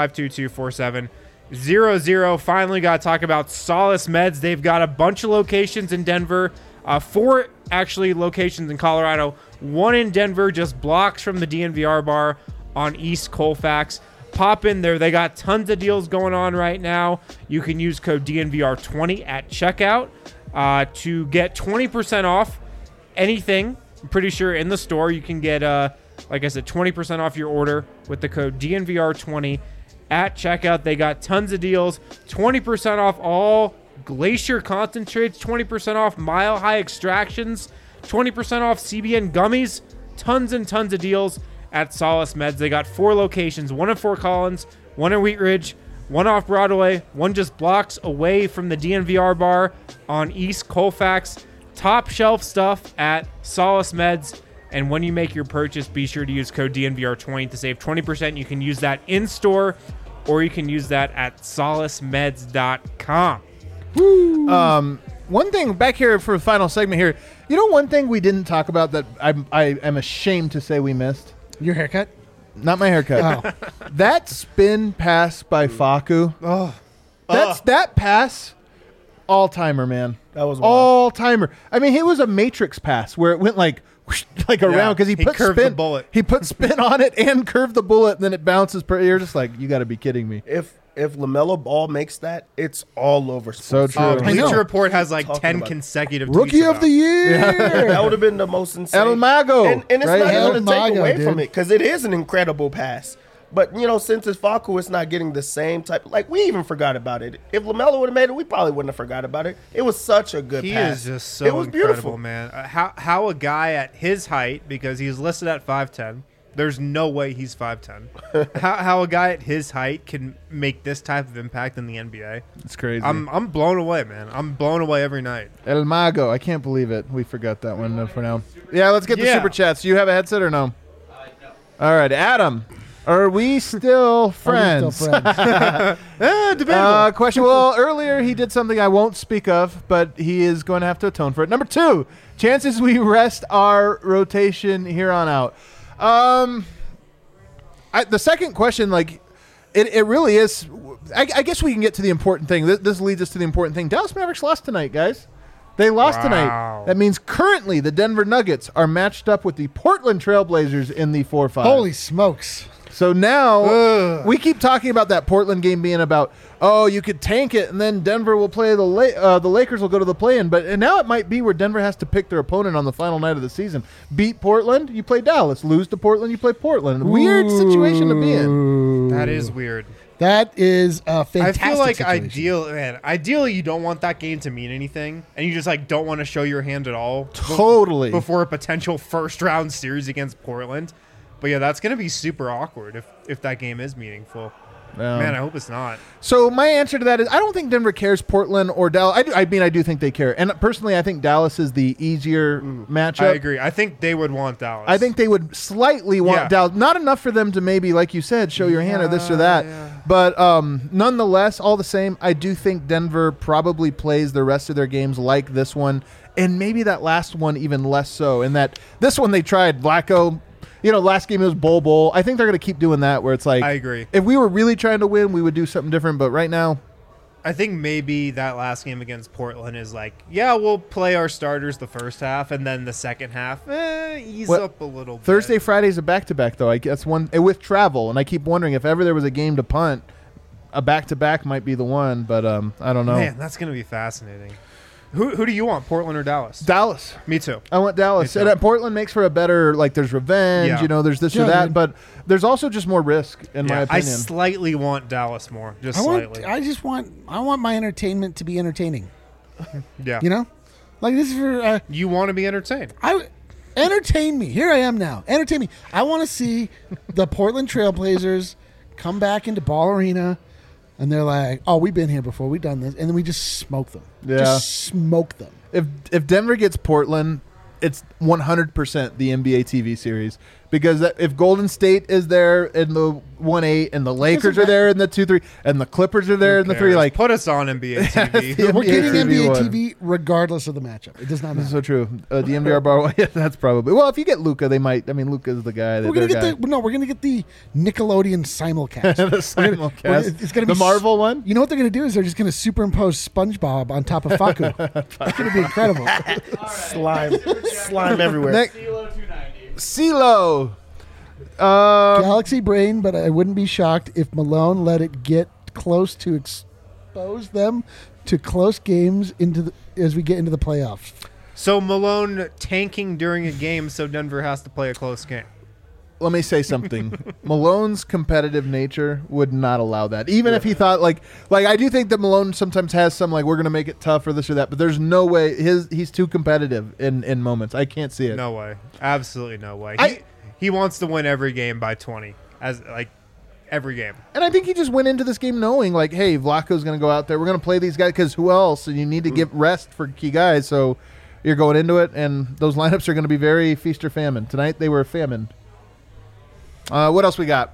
1-800-522-4700. Finally, got to talk about Solace Meds. They've got a bunch of locations in Denver. 4 actually locations in Colorado. 1 in Denver, just blocks from the DNVR bar on East Colfax. Pop in there. They got tons of deals going on right now. You can use code DNVR20 at checkout to get 20% off anything. I'm pretty sure in the store you can get, like I said, 20% off your order with the code DNVR20 at checkout. They got tons of deals. 20% off all Glacier concentrates, 20% off Mile High extractions, 20% off CBN gummies. Tons and tons of deals at Solace Meds. They got 4 locations, 1 in Fort Collins, 1 in Wheat Ridge, 1 off Broadway, 1 just blocks away from the DNVR bar on East Colfax. Top shelf stuff at Solace Meds. And when you make your purchase, be sure to use code DNVR20 to save 20%. You can use that in store or you can use that at solacemeds.com. One thing back here for the final segment here, one thing we didn't talk about that I am ashamed to say we missed? Your haircut? Not my haircut. Oh. That spin pass by Faku. That pass, all-timer, man. That was wild. All-timer. I mean, it was a Matrix pass where it went like whoosh, like around because he put curved spin. the bullet. He put spin on it and curved the bullet, and then it bounces. You're just like, you got to be kidding me. If LaMelo Ball makes that, it's all over. So sports. true. I know. Bleacher Report has like Talking 10 about it. consecutive Rookie tweets of about the it. year. That would have been the most insane. El Mago, and it's right? not El going to take Mago, away dude. from it because it is an incredible pass. But since it's Facu, it's not getting the same type. Like we even forgot about it. If LaMelo would have made it, we probably wouldn't have forgot about it. It was such a good He pass. is just It so was incredible, beautiful. man. How a guy at his height, because he's listed at 5'10", there's no way he's 5'10". how a guy at his height can make this type of impact in the NBA? It's crazy. I'm blown away, man. I'm blown away every night. El Mago. I can't believe it. We forgot that one for now. Yeah, let's get the Yeah. super chats. Do you have a headset or no? All right, Adam. Are we still friends? Are we still friends? Debatable. Question. Well, earlier he did something I won't speak of, but he is going to have to atone for it. Number 2, chances we rest our rotation here on out. The second question, like, it really is. I guess we can get to the important thing. This leads us to the important thing. Dallas Mavericks lost tonight, guys. They lost tonight. That means currently the Denver Nuggets are matched up with the Portland Trailblazers in the 4-5. Holy smokes. So now we keep talking about that Portland game being about, oh, you could tank it and then Denver will play the Lakers will go to the play-in. But now it might be where Denver has to pick their opponent on the final night of the season. Beat Portland, you play Dallas. Lose to Portland, you play Portland. Weird situation to be in. That is weird. That is a fantastic I feel like situation. ideally you don't want that game to mean anything, and you just like don't want to show your hand at all. Totally. Before a potential first round series against Portland. But yeah, that's going to be super awkward if that game is meaningful. Man, I hope it's not. So my answer to that is I don't think Denver cares Portland or Dallas. I do think they care. And personally, I think Dallas is the easier matchup. I agree. I think they would want Dallas. I think they would slightly want Dallas. Not enough for them to maybe, like you said, show your hand or this or that. Yeah. But nonetheless, all the same, I do think Denver probably plays the rest of their games like this one. And maybe that last one even less so. In that this one they tried Vlatko. Last game it was Bowl. I think they're going to keep doing that where it's like, I agree. If we were really trying to win, we would do something different. But right now, I think maybe that last game against Portland is like, yeah, we'll play our starters the first half, and then the second half, ease up a little bit. Thursday, Friday's a back-to-back, though. That's one with travel. And I keep wondering if ever there was a game to punt, a back-to-back might be the one. But I don't know. Man, that's going to be fascinating. Who do you want, Portland or Dallas? Dallas. Me too. I want Dallas. And Portland makes for a better, like, there's revenge, there's this or that, but there's also just more risk, in my opinion. I slightly want Dallas more, slightly. I want my entertainment to be entertaining. Yeah. Like this is for... you want to be entertained. Entertain me. Here I am now. Entertain me. I want to see the Portland Trailblazers come back into Ball Arena. And they're like, oh, we've been here before. We've done this. And then we just smoke them. Yeah. Just smoke them. If Denver gets Portland, it's 100% the NBA TV series. Because if Golden State is there in the 1-8 and the Lakers are there in the 2-3 and the Clippers are there in the 3, like put us on NBA TV. We're getting NBA TV regardless of the matchup. It does not matter. This is so true. DNVR bar. Yeah, that's probably. Well, if you get Luka, they might. I mean, Luka's the guy. We're gonna get the Nickelodeon simulcast. The simulcast. It's gonna be the Marvel one. You know what they're gonna do is they're just gonna superimpose SpongeBob on top of Faku. It's gonna be incredible. Slime everywhere. CeeLo. Galaxy brain, but I wouldn't be shocked if Malone let it get close to expose them to close games as we get into the playoffs. So Malone tanking during a game so Denver has to play a close game. Let me say something. Malone's competitive nature would not allow that. Even if he thought like I do think that Malone sometimes has some like we're going to make it tough or this or that, but there's no way he's too competitive in moments. I can't see it. No way. Absolutely no way. He wants to win every game by 20 as like every game. And I think he just went into this game knowing like, hey, Vlatko's going to go out there. We're going to play these guys because who else? And you need to give rest for key guys. So you're going into it, and those lineups are going to be very feast or famine. Tonight they were famine. What else we got?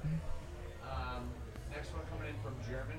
Next one coming in from German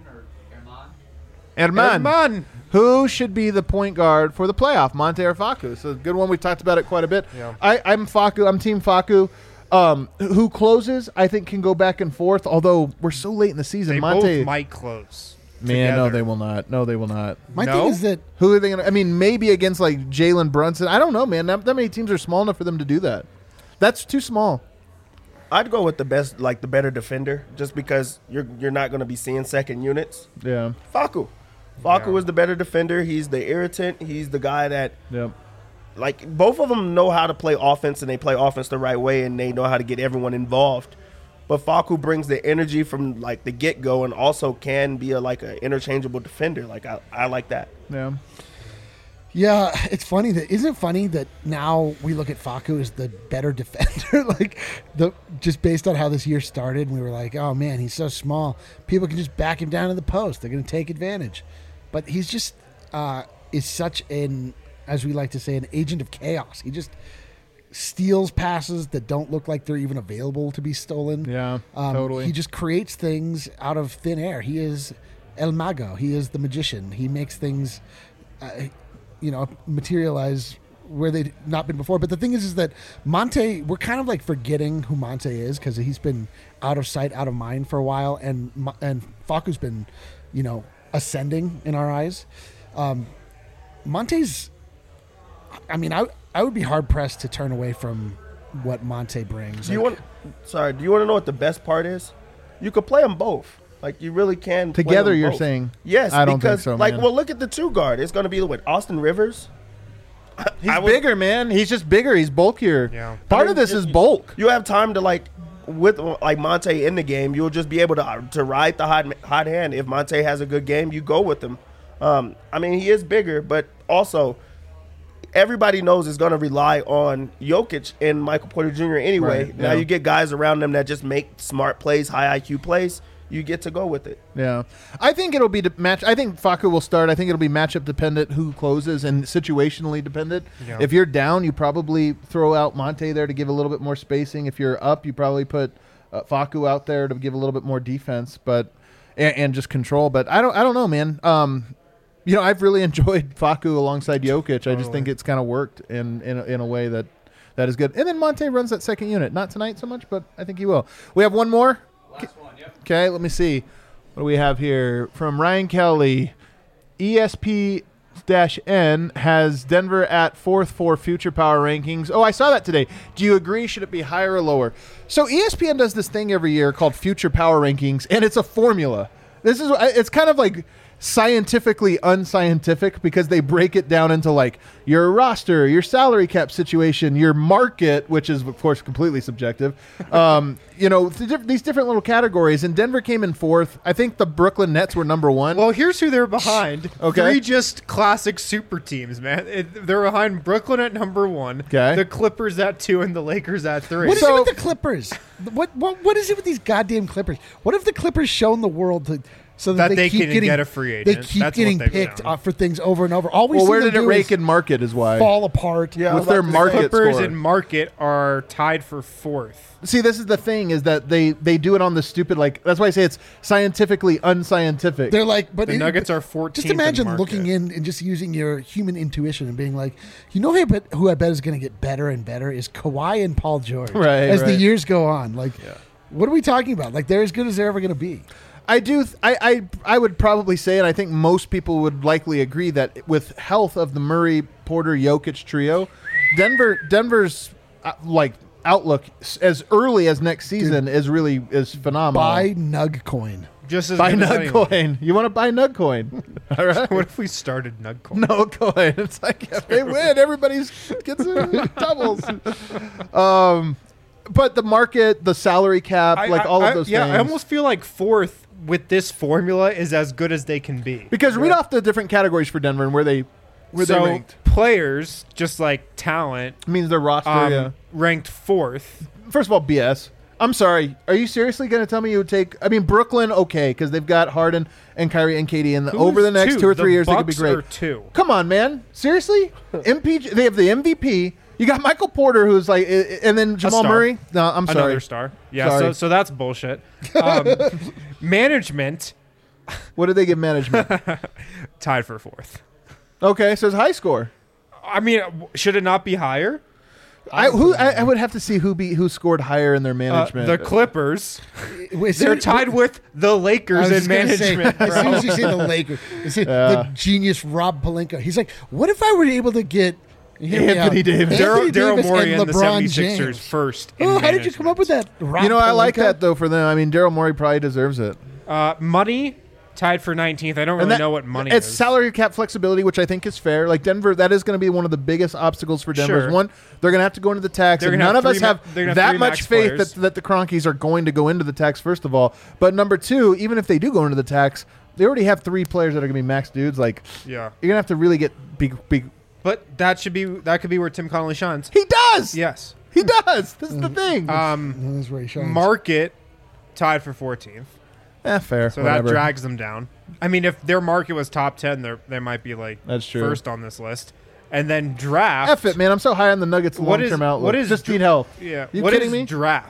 or Herman. Who should be the point guard for the playoff, Monte or Facu? So a good one. We talked about it quite a bit. Yeah. I'm Facu. I'm Team Facu. Who closes, I think, can go back and forth, although we're so late in the season. They Monte both might close. Man, together. no, they will not. No, they will not. My thing is that who are they going to? I mean, maybe against like Jalen Brunson. I don't know, man. That many teams are small enough for them to do that. That's too small. I'd go with the better defender, just because you're not going to be seeing second units. Yeah. Facu is the better defender. He's the irritant. He's the guy that, like, both of them know how to play offense, and they play offense the right way, and they know how to get everyone involved. But Facu brings the energy from like the get go, and also can be an interchangeable defender. Like I like that. Yeah. Yeah, it's funny isn't it funny that now we look at Facu as the better defender, just based on how this year started, and we were like, oh man, he's so small. People can just back him down to the post. They're going to take advantage. But he's just is such an, as we like to say, an agent of chaos. He just steals passes that don't look like they're even available to be stolen. Yeah, totally. He just creates things out of thin air. He is El Mago. He is the magician. He makes things materialize where they've not been before. But the thing is that Monte, we're kind of like forgetting who Monte is because he's been out of sight, out of mind for a while, and Facu's been, ascending in our eyes. Monte's, I mean, I would be hard pressed to turn away from what Monte brings. Do you want to know what the best part is? You could play them both. Like, you really can play Together, them you're both. saying? Yes, I don't because, think so, man. well, look at the two guard. It's going to be with Austin Rivers. He's bigger, man. He's just bigger. He's bulkier. Yeah. Part of this is bulk. You have time to, with Monte in the game, you'll just be able to ride the hot hand. If Monte has a good game, you go with him. I mean, he is bigger, but also everybody knows it's going to rely on Jokic and Michael Porter Jr. anyway. Right, Now yeah. you get guys around them that just make smart plays, high IQ plays. You get to go with it. Yeah. I think it'll be I think Facu will start. I think it'll be matchup dependent who closes and situationally dependent. Yeah. If you're down, you probably throw out Monte there to give a little bit more spacing. If you're up, you probably put Facu out there to give a little bit more defense, but and just control. But I don't know, man. I've really enjoyed Facu alongside Jokic. I just think it's kind of worked in a way that is good. And then Monte runs that second unit. Not tonight so much, but I think he will. We have one more. Last one, yep. Okay, let me see. What do we have here? From Ryan Kelly, ESP-N has Denver at 4th for Future Power Rankings. Oh, I saw that today. Do you agree? Should it be higher or lower? So ESPN does this thing every year called Future Power Rankings, and it's a formula. It's kind of like scientifically unscientific because they break it down into like your roster, your salary cap situation, your market, which is of course completely subjective. These different little categories. And Denver came in 4th. I think the Brooklyn Nets were number 1. Well, here's who they're behind. Okay. 3 just classic super teams, man. They're behind Brooklyn at number 1, Okay. the Clippers at 2, and the Lakers at 3. What is it with the Clippers? What is it with these goddamn Clippers? What have the Clippers shown the world so that They keep can getting, get a free agent? They keep That's what getting they've picked shown. for things over and over. All we Well, see where them did it do rake is in market is why. fall apart. Yeah, With their market Clippers score. and market are tied for 4th. See, this is the thing is that they do it on the stupid, that's why I say it's scientifically unscientific. They're like, but The Nuggets are 14th. Just imagine in market. looking in and just using your human intuition and being like, who I bet is going to get better and better is Kawhi and Paul George. Right, as the right. years go on, what are we talking about? Like, they're as good as they're ever going to be. I do. I would probably say, and I think most people would likely agree that with health of the Murray, Porter, Jokic trio, Denver's outlook as early as next season is phenomenal. Buy Nug Coin. Just as Buy good as Nug anyone. coin. You want to buy Nug coin? All right. What if we started Nugcoin? No coin. It's like if they win, everybody's gets doubles. But the market, the salary cap, all of those things. I almost feel like 4th with this formula is as good as they can be. Because read off the different categories for Denver and where they ranked. Players, just like talent, It means their roster. ranked 4th. First of all, BS. I'm sorry. Are you seriously going to tell me you would take? I mean, Brooklyn, okay, because they've got Harden and Kyrie and KD, and over the next 2 or 3 years, they could be Bucks great. are 2. Come on, man. Seriously? MPG. They have the MVP. You got Michael Porter, who's like, and then Jamal star. Murray. No, I'm sorry. Another star. Yeah, Sorry. so that's bullshit. Management What did they give management? tied for 4th. Okay, so it's high score. I mean, should it not be higher? I would have to see who scored higher in their management. The Clippers. As They're soon- tied with the I Lakers was in just gonna say, management. as soon bro. as you say the Lakers, the genius Rob Pelinka, he's like, what if I were able to get hear me Anthony out, Davis. Anthony Daryl Davis Morey and and the LeBron 76ers James. first. in Oh, how did you come up with that? Rob I like Pelinka? that though for them. I mean, Daryl Morey probably deserves it. Money tied for 19th. I don't really know what money it's is. salary cap flexibility, which I think is fair. Like Denver, that is going to be one of the biggest obstacles for Denver. Sure. One, they're going to have to go into the tax, They're and gonna none have of us three ma- have they're gonna have that three much max faith players. that the Kroenkes are going to go into the tax. First of all, but number 2, even if they do go into the tax, they already have 3 players that are going to be max dudes. Like Yeah. you're going to have to really get big. But that could be where Tim Connolly shines. He does. Yes. He does. This is the thing. That's where he shines. Market tied for 14th. Fair. So whatever. that drags them down. I mean, if their market was top 10, they might be like That's true. first on this list. And then draft. F it, man. I'm so high on the Nuggets What long-term is- outlook. what is Just dr- need health. Yeah. You What kidding is me? draft?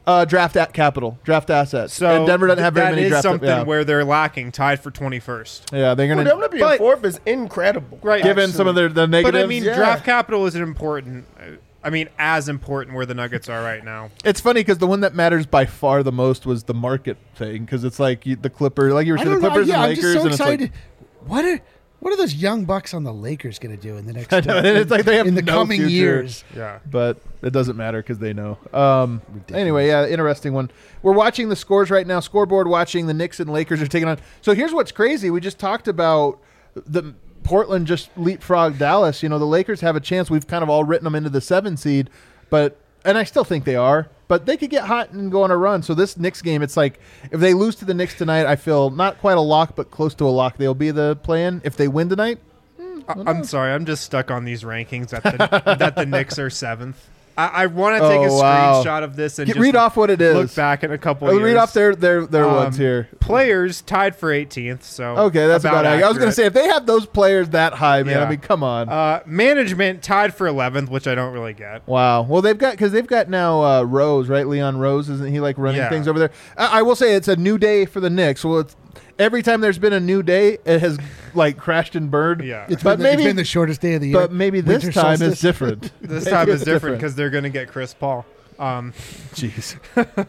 Draft assets. So and Denver doesn't have very many that is draft. something where they're lacking, tied for 21st. Yeah, they're For gonna. them to be in fourth is incredible. Right. Given some of the negatives. But I mean, Yeah. draft capital isn't important. I mean, as important where the Nuggets are right now. It's funny because the one that matters by far the most was the market thing, because it's like the Clippers, like you were I saying, the don't know. Clippers Yeah, and I'm Lakers, just so and it's excited. like, What are those young bucks on the Lakers going to do in the next? I know, and it's like they have in the no coming future. years. Yeah. But it doesn't matter because they know. Anyway, yeah, interesting one. We're watching the scores right now. Scoreboard watching the Knicks and Lakers are taking on. So here's what's crazy. We just talked about the Portland just leapfrogged Dallas. You know, the Lakers have a chance. We've kind of all written them into the 7 seed, and I still think they are. But they could get hot and go on a run. So this Knicks game, it's like if they lose to the Knicks tonight, I feel not quite a lock, but close to a lock. They'll be the play-in. If they win tonight, I'm sorry. I'm just stuck on these rankings that the Knicks are 7th. I want to take a screenshot of this and just read off what it is. look back in a couple years. Read off their ones here. Players tied for 18th. So Okay, that's about accurate. I was going to say, if they have those players that high, man, Yeah. I mean, come on. Management tied for 11th, which I don't really get. Wow. Well, they've got now Rose, right? Leon Rose, isn't he like running Yeah. things over there? I will say it's a new day for the Knicks. Well, every time there's been a new day, it has like crashed and burned. Yeah. It's But been, maybe- it's been the shortest day of the year. But maybe this Winter time solstice. is different. This Maybe time it's is different because they're going to get Chris Paul. Jeez.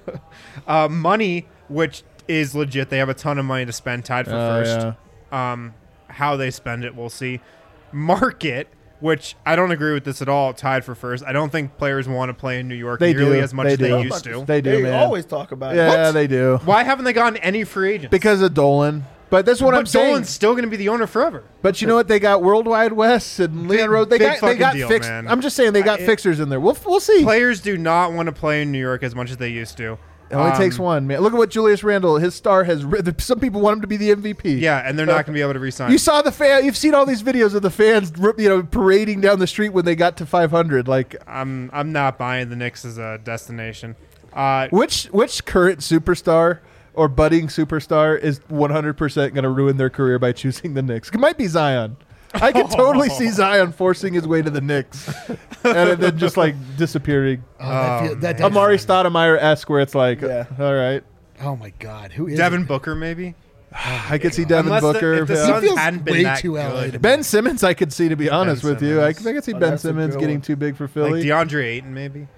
Money, which is legit. They have a ton of money to spend, tied for first. Yeah. How they spend it, we'll see. Market, which I don't agree with this at all, tied for first. I don't think players want to play in New York They nearly do. as much They as they do. used to. They do, They man. always talk about it. Yeah, What? they do. Why haven't they gotten any free agents? Because of Dolan. But that's what but I'm saying. Dolan's still going to be the owner forever. But you know what? They got Worldwide West and Leon Rose. They big got fucking deal, fixed. man. I'm just saying they got fixers in there. We'll see. Players do not want to play in New York as much as they used to. It only takes one, man. Look at what Julius Randle, his star has. Some people want him to be the MVP. Yeah, and they're not going to be able to resign. You saw the fan. You've seen all these videos of the fans, parading down the street when they got to 500. Like, I'm not buying the Knicks as a destination. which current superstar or budding superstar is 100% going to ruin their career by choosing the Knicks? It might be Zion. I could totally see Zion forcing his way to the Knicks and then just like disappearing. That Amari Stoudemire-esque, where it's like, Yeah. all right. Oh my God, who is Devin it? Booker, maybe? I could see Devin Unless Booker. if the yeah. Suns feels hadn't been way that too LA to good. me. Ben Simmons, I could see, to be honest with you. I Simmons. could see Ben that's a Simmons good getting one. too big for Like Philly. DeAndre Ayton, maybe.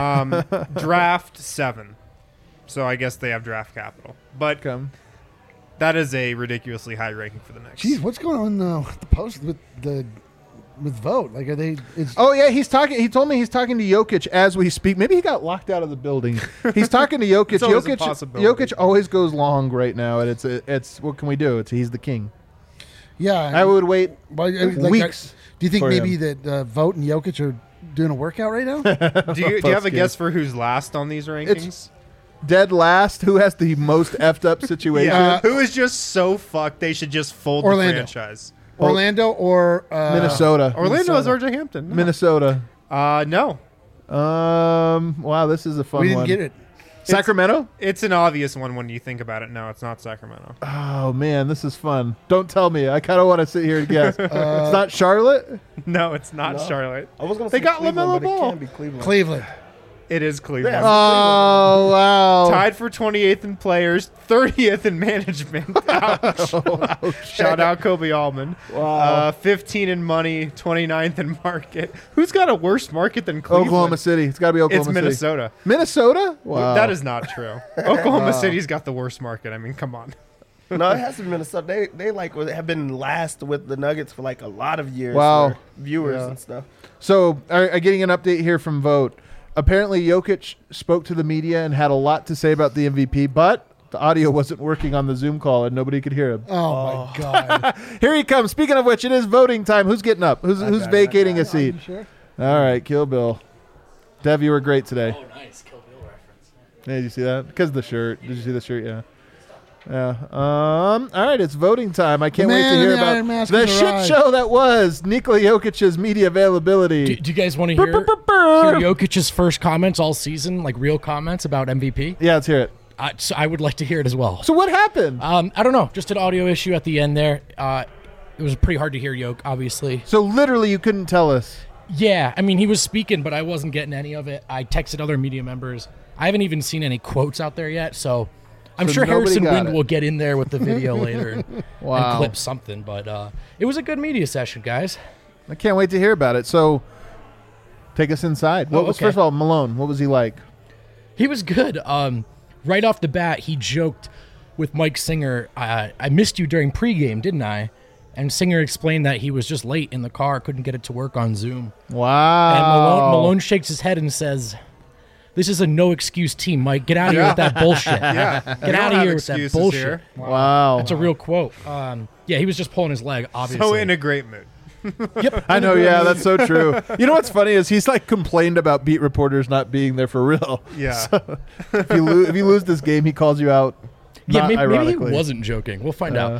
Draft 7. So I guess they have draft capital. But Come. that is a ridiculously high ranking for the Knicks. Jeez, what's going on with the post with vote? Like, are they? Oh yeah, he's talking. He told me he's talking to Jokic as we speak. Maybe he got locked out of the building. He's talking to Jokic. It's always a Jokic. possibility. Jokic always goes long right now, and it's what can we do? He's the king. Yeah, I would wait Well, weeks. do you think for maybe him. that Vogt and Jokic are doing a workout right now? Do you have a Post-game. guess for who's last on these rankings? Dead last. Who has the most effed up situation? Yeah. Who is just so fucked they should just fold Orlando. the franchise? Orlando or Minnesota. Orlando is RJ Hampton. No. Minnesota. No. Wow, this is a fun We didn't one. get it. Sacramento? It's an obvious one when you think about it. No, it's not Sacramento. Oh man, this is fun. Don't tell me. I kind of want to sit here and guess. It's not Charlotte. No, it's not No. Charlotte. I was gonna They say got Cleveland, LaMelo but it Ball. can't be Cleveland. Cleveland. It is Cleveland. Yeah. Oh wow. Tied for 28th in players, 30th in management. Ouch. Shout out Kobe Allman. Wow. 15 in money, 29th in market. Who's got a worse market than Cleveland? Oklahoma City. It's got to be Oklahoma It's City. Minnesota. Minnesota? Wow. That is not true. Oklahoma City's got the worst market. I mean, come on. No, it has to be Minnesota. They like have been last with the Nuggets for like a lot of years. Wow. for viewers Yeah. and stuff. So, getting an update here from Vote. Apparently, Jokic spoke to the media and had a lot to say about the MVP, but the audio wasn't working on the Zoom call and nobody could hear him. Oh my God. Here he comes. Speaking of which, it is voting time. Who's getting up? Who's vacating a seat? Sure. All right, Kill Bill. Dev, you were great today. Oh, nice. Kill Bill reference. Hey, did you see that? Because of the shirt. Did you see the shirt? Yeah. Yeah. All right, it's voting time. I can't wait to man in hear the about Iron Mask the has shit arrived. show that was Nikola Jokic's media availability. Do you guys want to hear Jokic's first comments all season, like real comments about MVP? Yeah, let's hear it. So I would like to hear it as well. So what happened? I don't know, just an audio issue at the end there. It was pretty hard to hear Yoke, obviously. So literally you couldn't tell us. Yeah, I mean, he was speaking, but I wasn't getting any of it. I texted other media members. I haven't even seen any quotes out there yet, so I'm So sure nobody Harrison got Wind it. will get in there with the video later and Wow. clip something. But it was a good media session, guys. I can't wait to hear about it. So, take us inside. What Oh, was okay. first of all Malone? What was he like? He was good. Right off the bat, he joked with Mike Singer, I missed you during pregame, didn't I? And Singer explained that he was just late in the car, couldn't get it to work on Zoom. Wow. And Malone shakes his head and says, "This is a no-excuse team, Mike. Get out of here with that bullshit. Yeah. Get out of here with that bullshit." Here. Wow. That's a real quote. Yeah, he was just pulling his leg, obviously. So in a great mood. Yep. I know, yeah, that's so true. You know what's funny is he's like complained about beat reporters not being there for real. Yeah. So, if you lose this game, he calls you out. Yeah, not maybe he ironically. wasn't joking. We'll find out.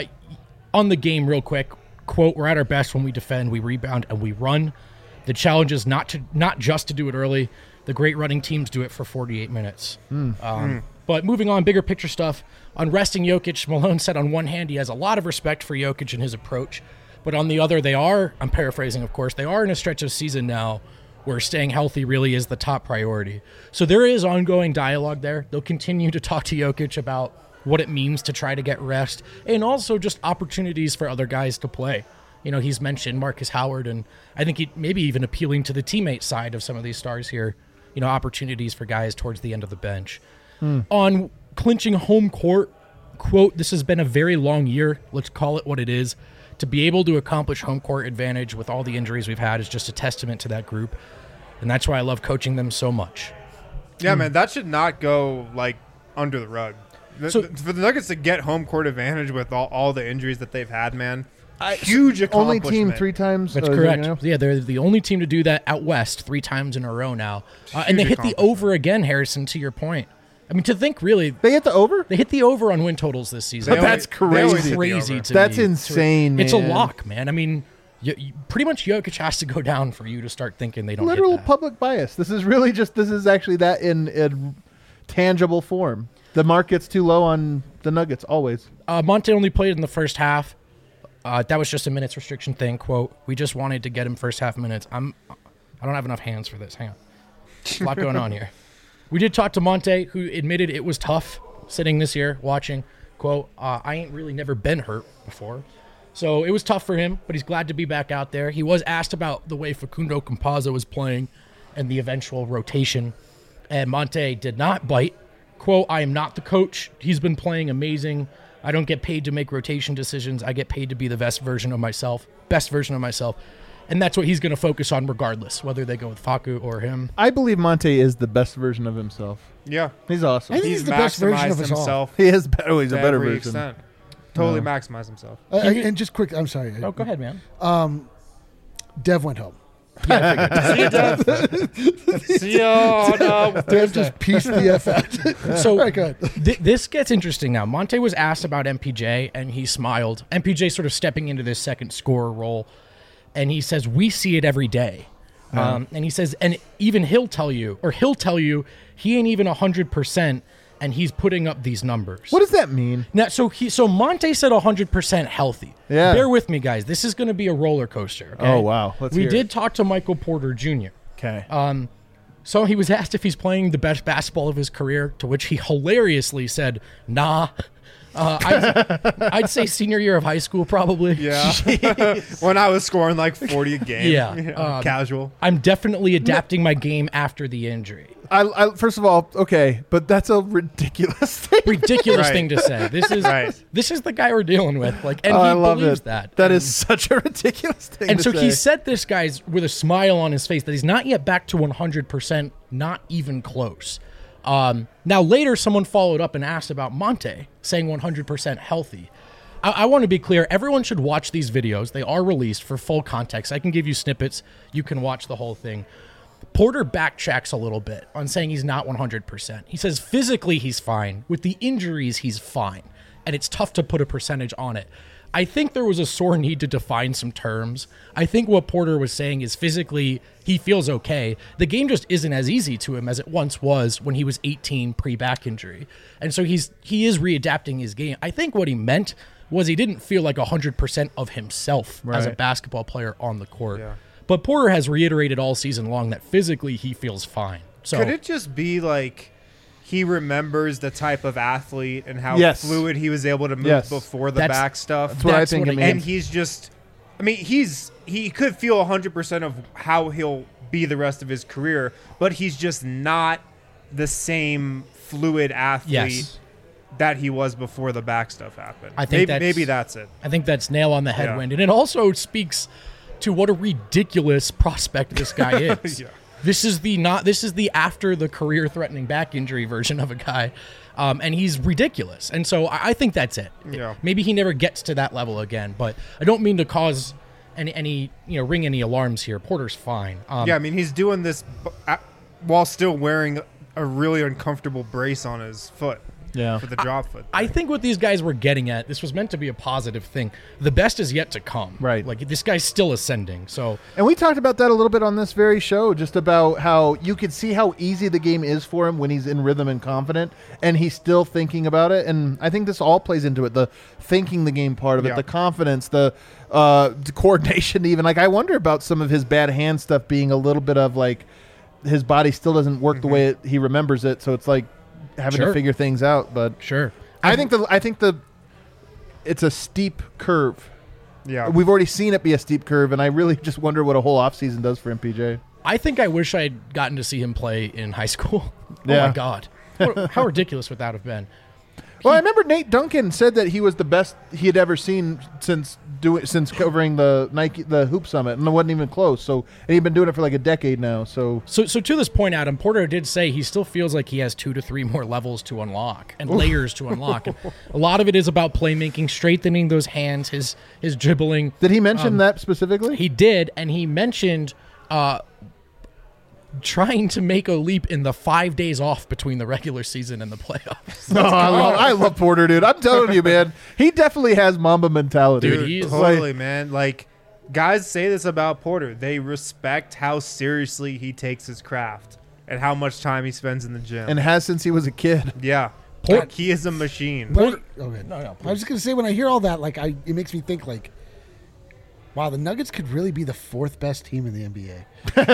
On the game, real quick, quote, "We're at our best when we defend, we rebound, and we run. The challenge is not just to do it early. The great running teams do it for 48 minutes." But moving on, bigger picture stuff. On resting Jokic, Malone said on one hand he has a lot of respect for Jokic and his approach, but on the other, I'm paraphrasing, of course, they are in a stretch of season now where staying healthy really is the top priority. So there is ongoing dialogue there. They'll continue to talk to Jokic about what it means to try to get rest and also just opportunities for other guys to play. You know, he's mentioned Marcus Howard, and I think he maybe even appealing to the teammate side of some of these stars here, you know, opportunities for guys towards the end of the bench. On clinching home court, quote, "This has been a very long year. Let's call it what it is. To be able to accomplish home court advantage with all the injuries we've had is just a testament to that group. And that's why I love coaching them so much." Yeah, man, that should not go like under the rug. So- For the Nuggets to get home court advantage with all the injuries that they've had, man, huge Only accomplishment. team 3 times. That's is it correct. now? Yeah, they're the only team to do that out west 3 times in a row now. And they Huge hit the over again, Harrison, to your point. I mean, to think really, They hit the over. they hit the over on win totals this season. But that's They crazy. always hit the Crazy over. to That's me. insane, It's a man. lock, man. I mean, pretty much Jokic has to go down for you to start thinking they don't Literal hit that. public bias. This is actually that in tangible form. The market's too low on the Nuggets always. Monte only played in the first half. That was just a minutes restriction thing. Quote, "We just wanted to get him first half minutes." I don't have enough hands for this. Hang on. There's a lot going on here. We did talk to Monte, who admitted it was tough sitting this year watching. Quote, "I ain't really never been hurt before." So it was tough for him, but he's glad to be back out there. He was asked about the way Facundo Campazzo was playing and the eventual rotation. And Monte did not bite. Quote, "I am not the coach. He's been playing amazing. I don't get paid to make rotation decisions. I get paid to be the best version of myself. And that's what he's going to focus on regardless, whether they go with Facu or him." I believe Monte is the best version of himself. Yeah, He's awesome. I think he's the best version of maximized us all. himself He is better. He's a to better every version. extent. Totally maximized himself. And just quick, I'm sorry. Oh, go ahead, man. Dev went home. See ya on Dev just pieced the F out. So All right, go ahead. this gets interesting now. Monte was asked about MPJ, and he smiled. MPJ sort of stepping into this second scorer role, and he says, "We see it every day." And he says, and even he'll tell you he ain't even 100%, and he's putting up these numbers. What does that mean? Now, so Monte said 100% healthy. Yeah. Bear with me, guys. This is going to be a roller coaster. Okay? Oh, wow. Let's we hear did it. talk to Michael Porter Jr. Okay. So he was asked if he's playing the best basketball of his career, to which he hilariously said, "Nah." I'd say senior year of high school, probably. Yeah. When I was scoring like 40 a game. Yeah. Casual. I'm definitely adapting my game after the injury. I first of all, okay, but that's a ridiculous thing. Ridiculous Right. thing to say. This is Right. this is the guy we're dealing with. Like, and Oh, he I love believes it. that. That is such a ridiculous thing. And to so say. he said this guy's with a smile on his face that he's not yet back to 100%, not even close. Now later, someone followed up and asked about Monte, saying 100% healthy. I want to be clear. Everyone should watch these videos. They are released for full context. I can give you snippets. You can watch the whole thing. Porter backtracks a little bit on saying he's not 100%. He says physically he's fine. With the injuries, he's fine. And it's tough to put a percentage on it. I think there was a sore need to define some terms. I think what Porter was saying is physically he feels okay. The game just isn't as easy to him as it once was when he was 18 pre-back injury. And so he is readapting his game. I think what he meant was he didn't feel like 100% of himself as a Right. basketball player on the court. Yeah. But Porter has reiterated all season long that physically he feels fine. So Could it just be like he remembers the type of athlete and how Yes. fluid he was able to move Yes. before the That's- back stuff? That's what I That's think what it it means. And he's just, I mean, he could feel 100% of how he'll be the rest of his career, but he's just not the same fluid athlete Yes. that he was before the back stuff happened. I think maybe that's it. I think that's nail on the head, Yeah. Wind. And it also speaks to what a ridiculous prospect this guy is. Yeah. This is the after the career threatening back injury version of a guy. And he's ridiculous. And so I think that's it. Yeah. Maybe he never gets to that level again, but I don't mean to cause any ring any alarms here. Porter's fine. Yeah, I mean, he's doing this while still wearing a really uncomfortable brace on his foot. Yeah. For the drop foot. I think what these guys were getting at, this was meant to be a positive thing. The best is yet to come. Right. Like, this guy's still ascending. So And we talked about that a little bit on this very show, just about how you could see how easy the game is for him when he's in rhythm and confident, and he's still thinking about it. And I think this all plays into it, the thinking the game part of it, Yeah. the confidence, the coordination even. Like, I wonder about some of his bad hand stuff being a little bit of, like, his body still doesn't work the way he remembers it, so it's like having to Sure. figure things out. But sure. I think it's a steep curve. Yeah. We've already seen it be a steep curve, and I really just wonder what a whole offseason does for MPJ. I think I wish I had gotten to see him play in high school. Oh Yeah. my God. How ridiculous would that have been? Well, I remember Nate Duncan said that he was the best he had ever seen since covering the Hoop Summit, and it wasn't even close. So, and he'd been doing it for like a decade now. So So to this point, Adam, Porter did say he still feels like he has 2 to 3 more levels to unlock and layers to unlock. And a lot of it is about playmaking, strengthening those hands, his dribbling. did he mention that specifically? He did, and he mentioned trying to make a leap in the 5 days off between the regular season and the playoffs. Oh, I love Porter, dude. I'm telling you, man. He definitely has Mamba mentality. Dude, he is- Totally, man. Like, guys say this about Porter. They respect how seriously he takes his craft and how much time he spends in the gym. And has since he was a kid. yeah. Port- He is a machine. Okay. No, I was just gonna say, when I hear all that, like, it makes me think, like, wow, the Nuggets could really be the 4th best team in the NBA.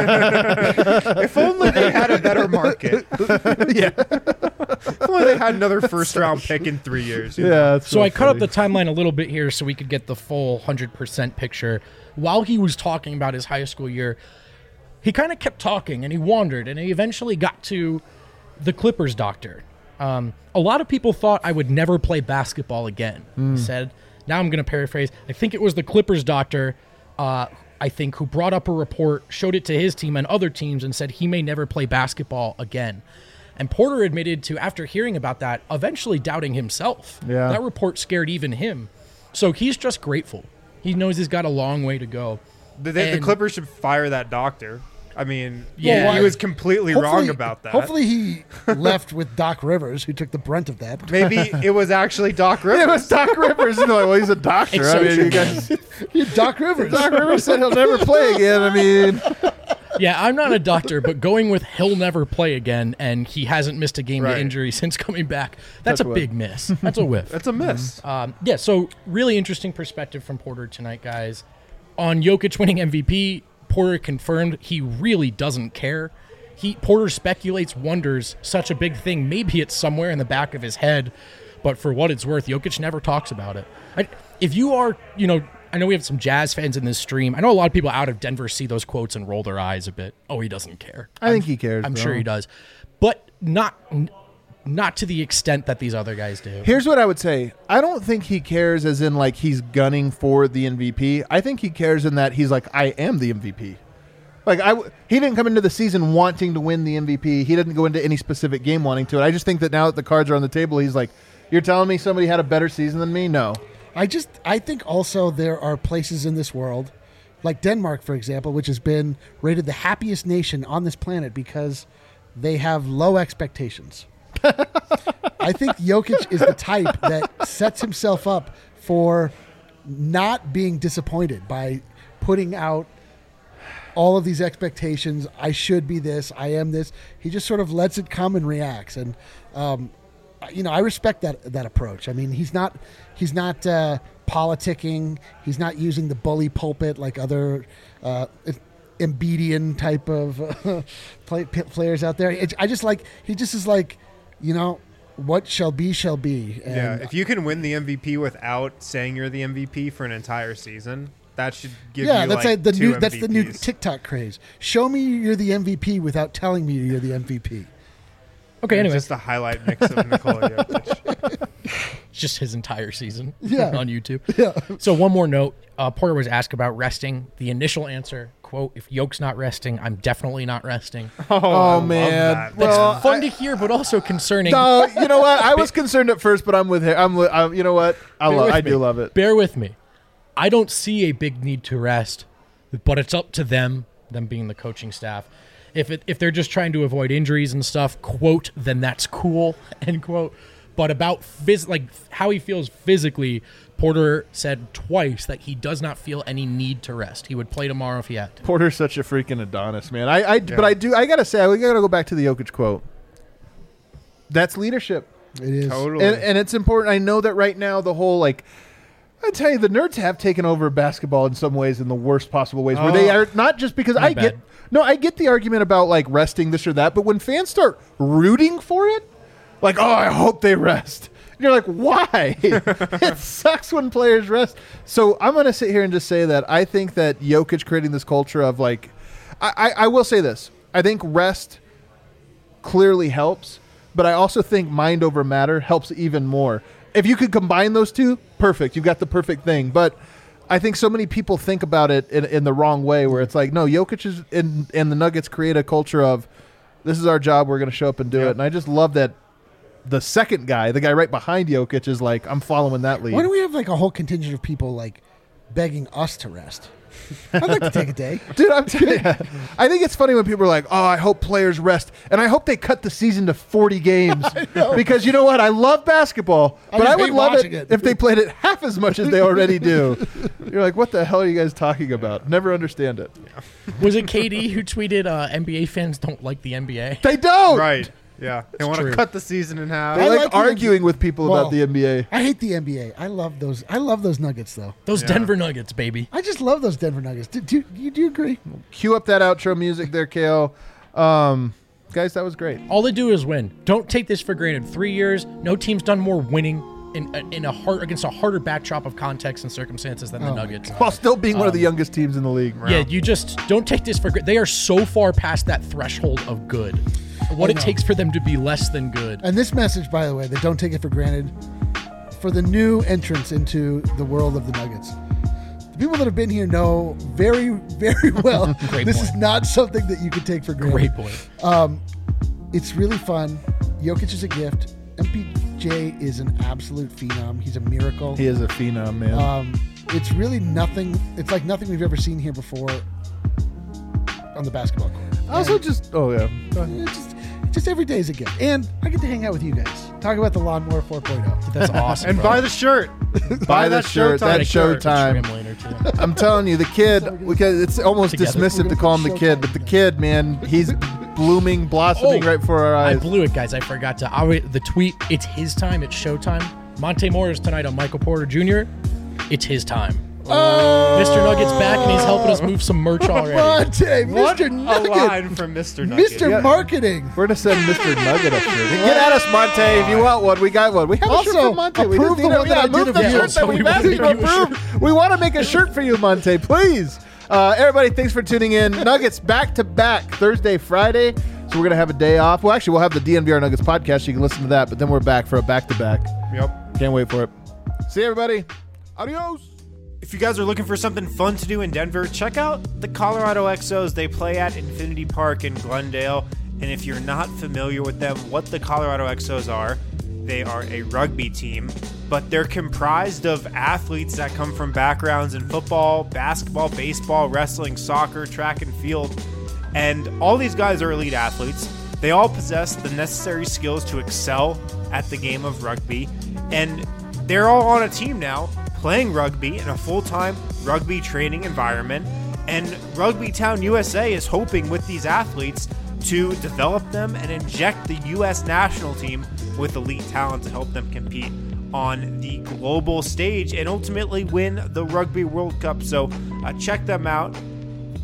If only they had a better market. Yeah. If only they had another first-round pick in 3 years. you know? Yeah. That's So I cut up funny. the timeline a little bit here so we could get the full 100% picture. While he was talking about his high school year, he kind of kept talking and he wandered and he eventually got to the Clippers doctor. A lot of people thought I would never play basketball again. He said, now I'm going to paraphrase, I think it was the Clippers doctor, who brought up a report, showed it to his team and other teams and said he may never play basketball again. And Porter admitted to, after hearing about that, eventually doubting himself. Yeah. That report scared even him. So he's just grateful. He knows he's got a long way to go. The And- Clippers should fire that doctor. I mean, Yeah. he was completely wrong about that. Hopefully he left with Doc Rivers, who took the brunt of that. Maybe it was actually Doc Rivers. It was Doc Rivers. And they're like, well, he's a doctor. It's I so mean, true. you guys, Doc Rivers. Doc Rivers said he'll never play again. I mean, Yeah, I'm not a doctor, but going with he'll never play again and he hasn't missed a game Right. to injury since coming back, that's That's a a big miss. That's a whiff. That's a miss. Yeah, so really interesting perspective from Porter tonight, guys. On Jokic winning MVP, Porter confirmed he really doesn't care. Porter speculates, wonders, such a big thing. Maybe it's somewhere in the back of his head, but for what it's worth, Jokic never talks about it. If you are, I know we have some Jazz fans in this stream. I know a lot of people out of Denver see those quotes and roll their eyes a bit. Oh, he doesn't care. I think he cares. I'm though. sure he does, but not to the extent that these other guys do. Here's what I would say. I don't think he cares as in like he's gunning for the MVP. I think he cares in that he's like, I am the MVP. Like he didn't come into the season wanting to win the MVP. He didn't go into any specific game wanting to. I just think that now that the cards are on the table, he's like, you're telling me somebody had a better season than me? No. I think also there are places in this world, like Denmark, for example, which has been rated the happiest nation on this planet because they have low expectations. I think Jokic is the type that sets himself up for not being disappointed by putting out all of these expectations. I should be this. I am this. He just sort of lets it come and reacts. And, I respect that approach. I mean, he's not politicking. He's not using the bully pulpit like other. Embiidian type of players out there. I just like he just is like, what shall be shall be. And Yeah, if you can win the MVP without saying you're the MVP for an entire season, that should give you that's like the two new that's the new MVPs. TikTok craze. Show me you're the MVP without telling me you're the MVP. Okay, anyway, Just a highlight mix of Nikola Jokic. it's just his entire season Yeah. on YouTube. Yeah. So one more note. Porter was asked about resting. The initial answer, quote, if Yoke's not resting, I'm definitely not resting. I Oh love man. that. Well, Fun to hear, but also concerning. no, you know what? I was concerned at first, but I'm with him. You know what? I do love it. Bear with me. I don't see a big need to rest, but it's up to them being the coaching staff. If they're just trying to avoid injuries and stuff, quote, then that's cool, end quote. But about how he feels physically, Porter said twice that he does not feel any need to rest. He would play tomorrow if he had to. Porter's such a freaking Adonis, man. But I gotta say, we gotta go back to the Jokic quote. That's leadership. It is. Totally. And it's important. I know that right now the whole I tell you, the nerds have taken over basketball in some ways, in the worst possible ways, where they are not just because I get the argument about resting this or that, but when fans start rooting for it, I hope they rest. And you're like, why? It sucks when players rest. So I'm going to sit here and just say that I think that Jokic creating this culture of I will say this. I think rest clearly helps, but I also think mind over matter helps even more. If you could combine those two, perfect. You've got the perfect thing. But I think so many people think about it in the wrong way, where it's like, no, Jokic is and the Nuggets create a culture of, this is our job, we're going to show up and do it. And I just love that the second guy, the guy right behind Jokic, is like, I'm following that lead. Why do we have a whole contingent of people begging us to rest? I'd like to take a day. Dude, I'm telling you, I think it's funny when people are like, oh, I hope players rest. And I hope they cut the season to 40 games. Because you know what? I love basketball, but just I would hate love watching it it. if they played it half as much as they already do. You're like, what the hell are you guys talking about? Never understand it. Was it KD who tweeted NBA fans don't like the NBA? They don't. Right. Yeah. They want true. to cut the season in half. They I like like the arguing with people about the NBA. I hate the NBA. I love those Nuggets, though. Those Denver Nuggets, baby. I just love those Denver Nuggets. Do you agree? Cue up that outro music there, KO. Guys, that was great. All they do is win. Don't take this for granted. 3 years, no team's done more winning against a harder backdrop of context and circumstances than the Nuggets. While still being one of the youngest teams in the league. Yeah, you just don't take this for granted. They are so far past that threshold of good. What it takes for them to be less than good. And this message, by the way, that don't take it for granted, for the new entrants into the world of the Nuggets. The people that have been here know very, very well Great this point. is not something that you can take for granted. Great point. It's really fun. Jokic is a gift. MPJ is an absolute phenom. He's a miracle. He is a phenom, man. It's really nothing. It's like nothing we've ever seen here before on the basketball court. Also, just, oh, yeah. Go ahead. It's just every day is a gift. And I get to hang out with you guys. Talk about the Lawnmower 4.0. That's awesome. And bro. buy the shirt. Buy the shirt. Showtime That's shirt. Showtime. Trim later, too. I'm telling you, the kid, because it's almost Together. dismissive to call him the kid, but the kid, man, he's blooming, blossoming right before our I eyes. blew it, guys. I forgot to. The tweet, it's his time. It's showtime. Monte Morris tonight on Michael Porter Jr. It's his time. Mr. Nugget's back, and he's helping us move some merch already. Monte, What Mr. a Nugget. line from Mr. Nugget. Mr. Yeah. Marketing. We're going to send Mr. Nugget a shirt. Get at us, Monte, if you want one. We got one. We have a shirt Also, for Monte. We approve just the need one that I move did the of you. shirt that So we've we asked wanna you to make you a approve. We want to make a shirt for you, Monte, please. Everybody, thanks for tuning in. Nuggets back-to-back Thursday, Friday. So we're going to have a day off. Well, actually, we'll have the DNVR Nuggets podcast. You can listen to that, but then we're back for a back-to-back. Yep. Can't wait for it. See you, everybody. Adios. If you guys are looking for something fun to do in Denver, check out the Colorado Exos. They play at Infinity Park in Glendale. And if you're not familiar with them, what the Colorado Exos are, they are a rugby team, but they're comprised of athletes that come from backgrounds in football, basketball, baseball, wrestling, soccer, track and field. And all these guys are elite athletes. They all possess the necessary skills to excel at the game of rugby. And they're all on a team now, playing rugby in a full-time rugby training environment. And Rugby Town USA is hoping with these athletes to develop them and inject the U.S. national team with elite talent to help them compete on the global stage and ultimately win the Rugby World Cup. So check them out.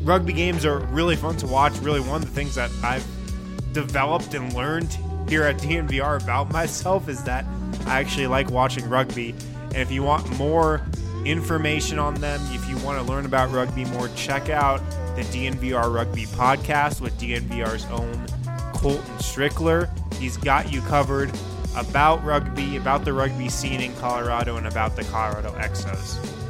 rugby games are really fun to watch. Really, one of the things that I've developed and learned here at DNVR about myself is that I actually like watching rugby. And if you want more information on them, if you want to learn about rugby more, check out the DNVR Rugby Podcast with DNVR's own Colton Strickler. He's got you covered about rugby, about the rugby scene in Colorado, and about the Colorado Exos.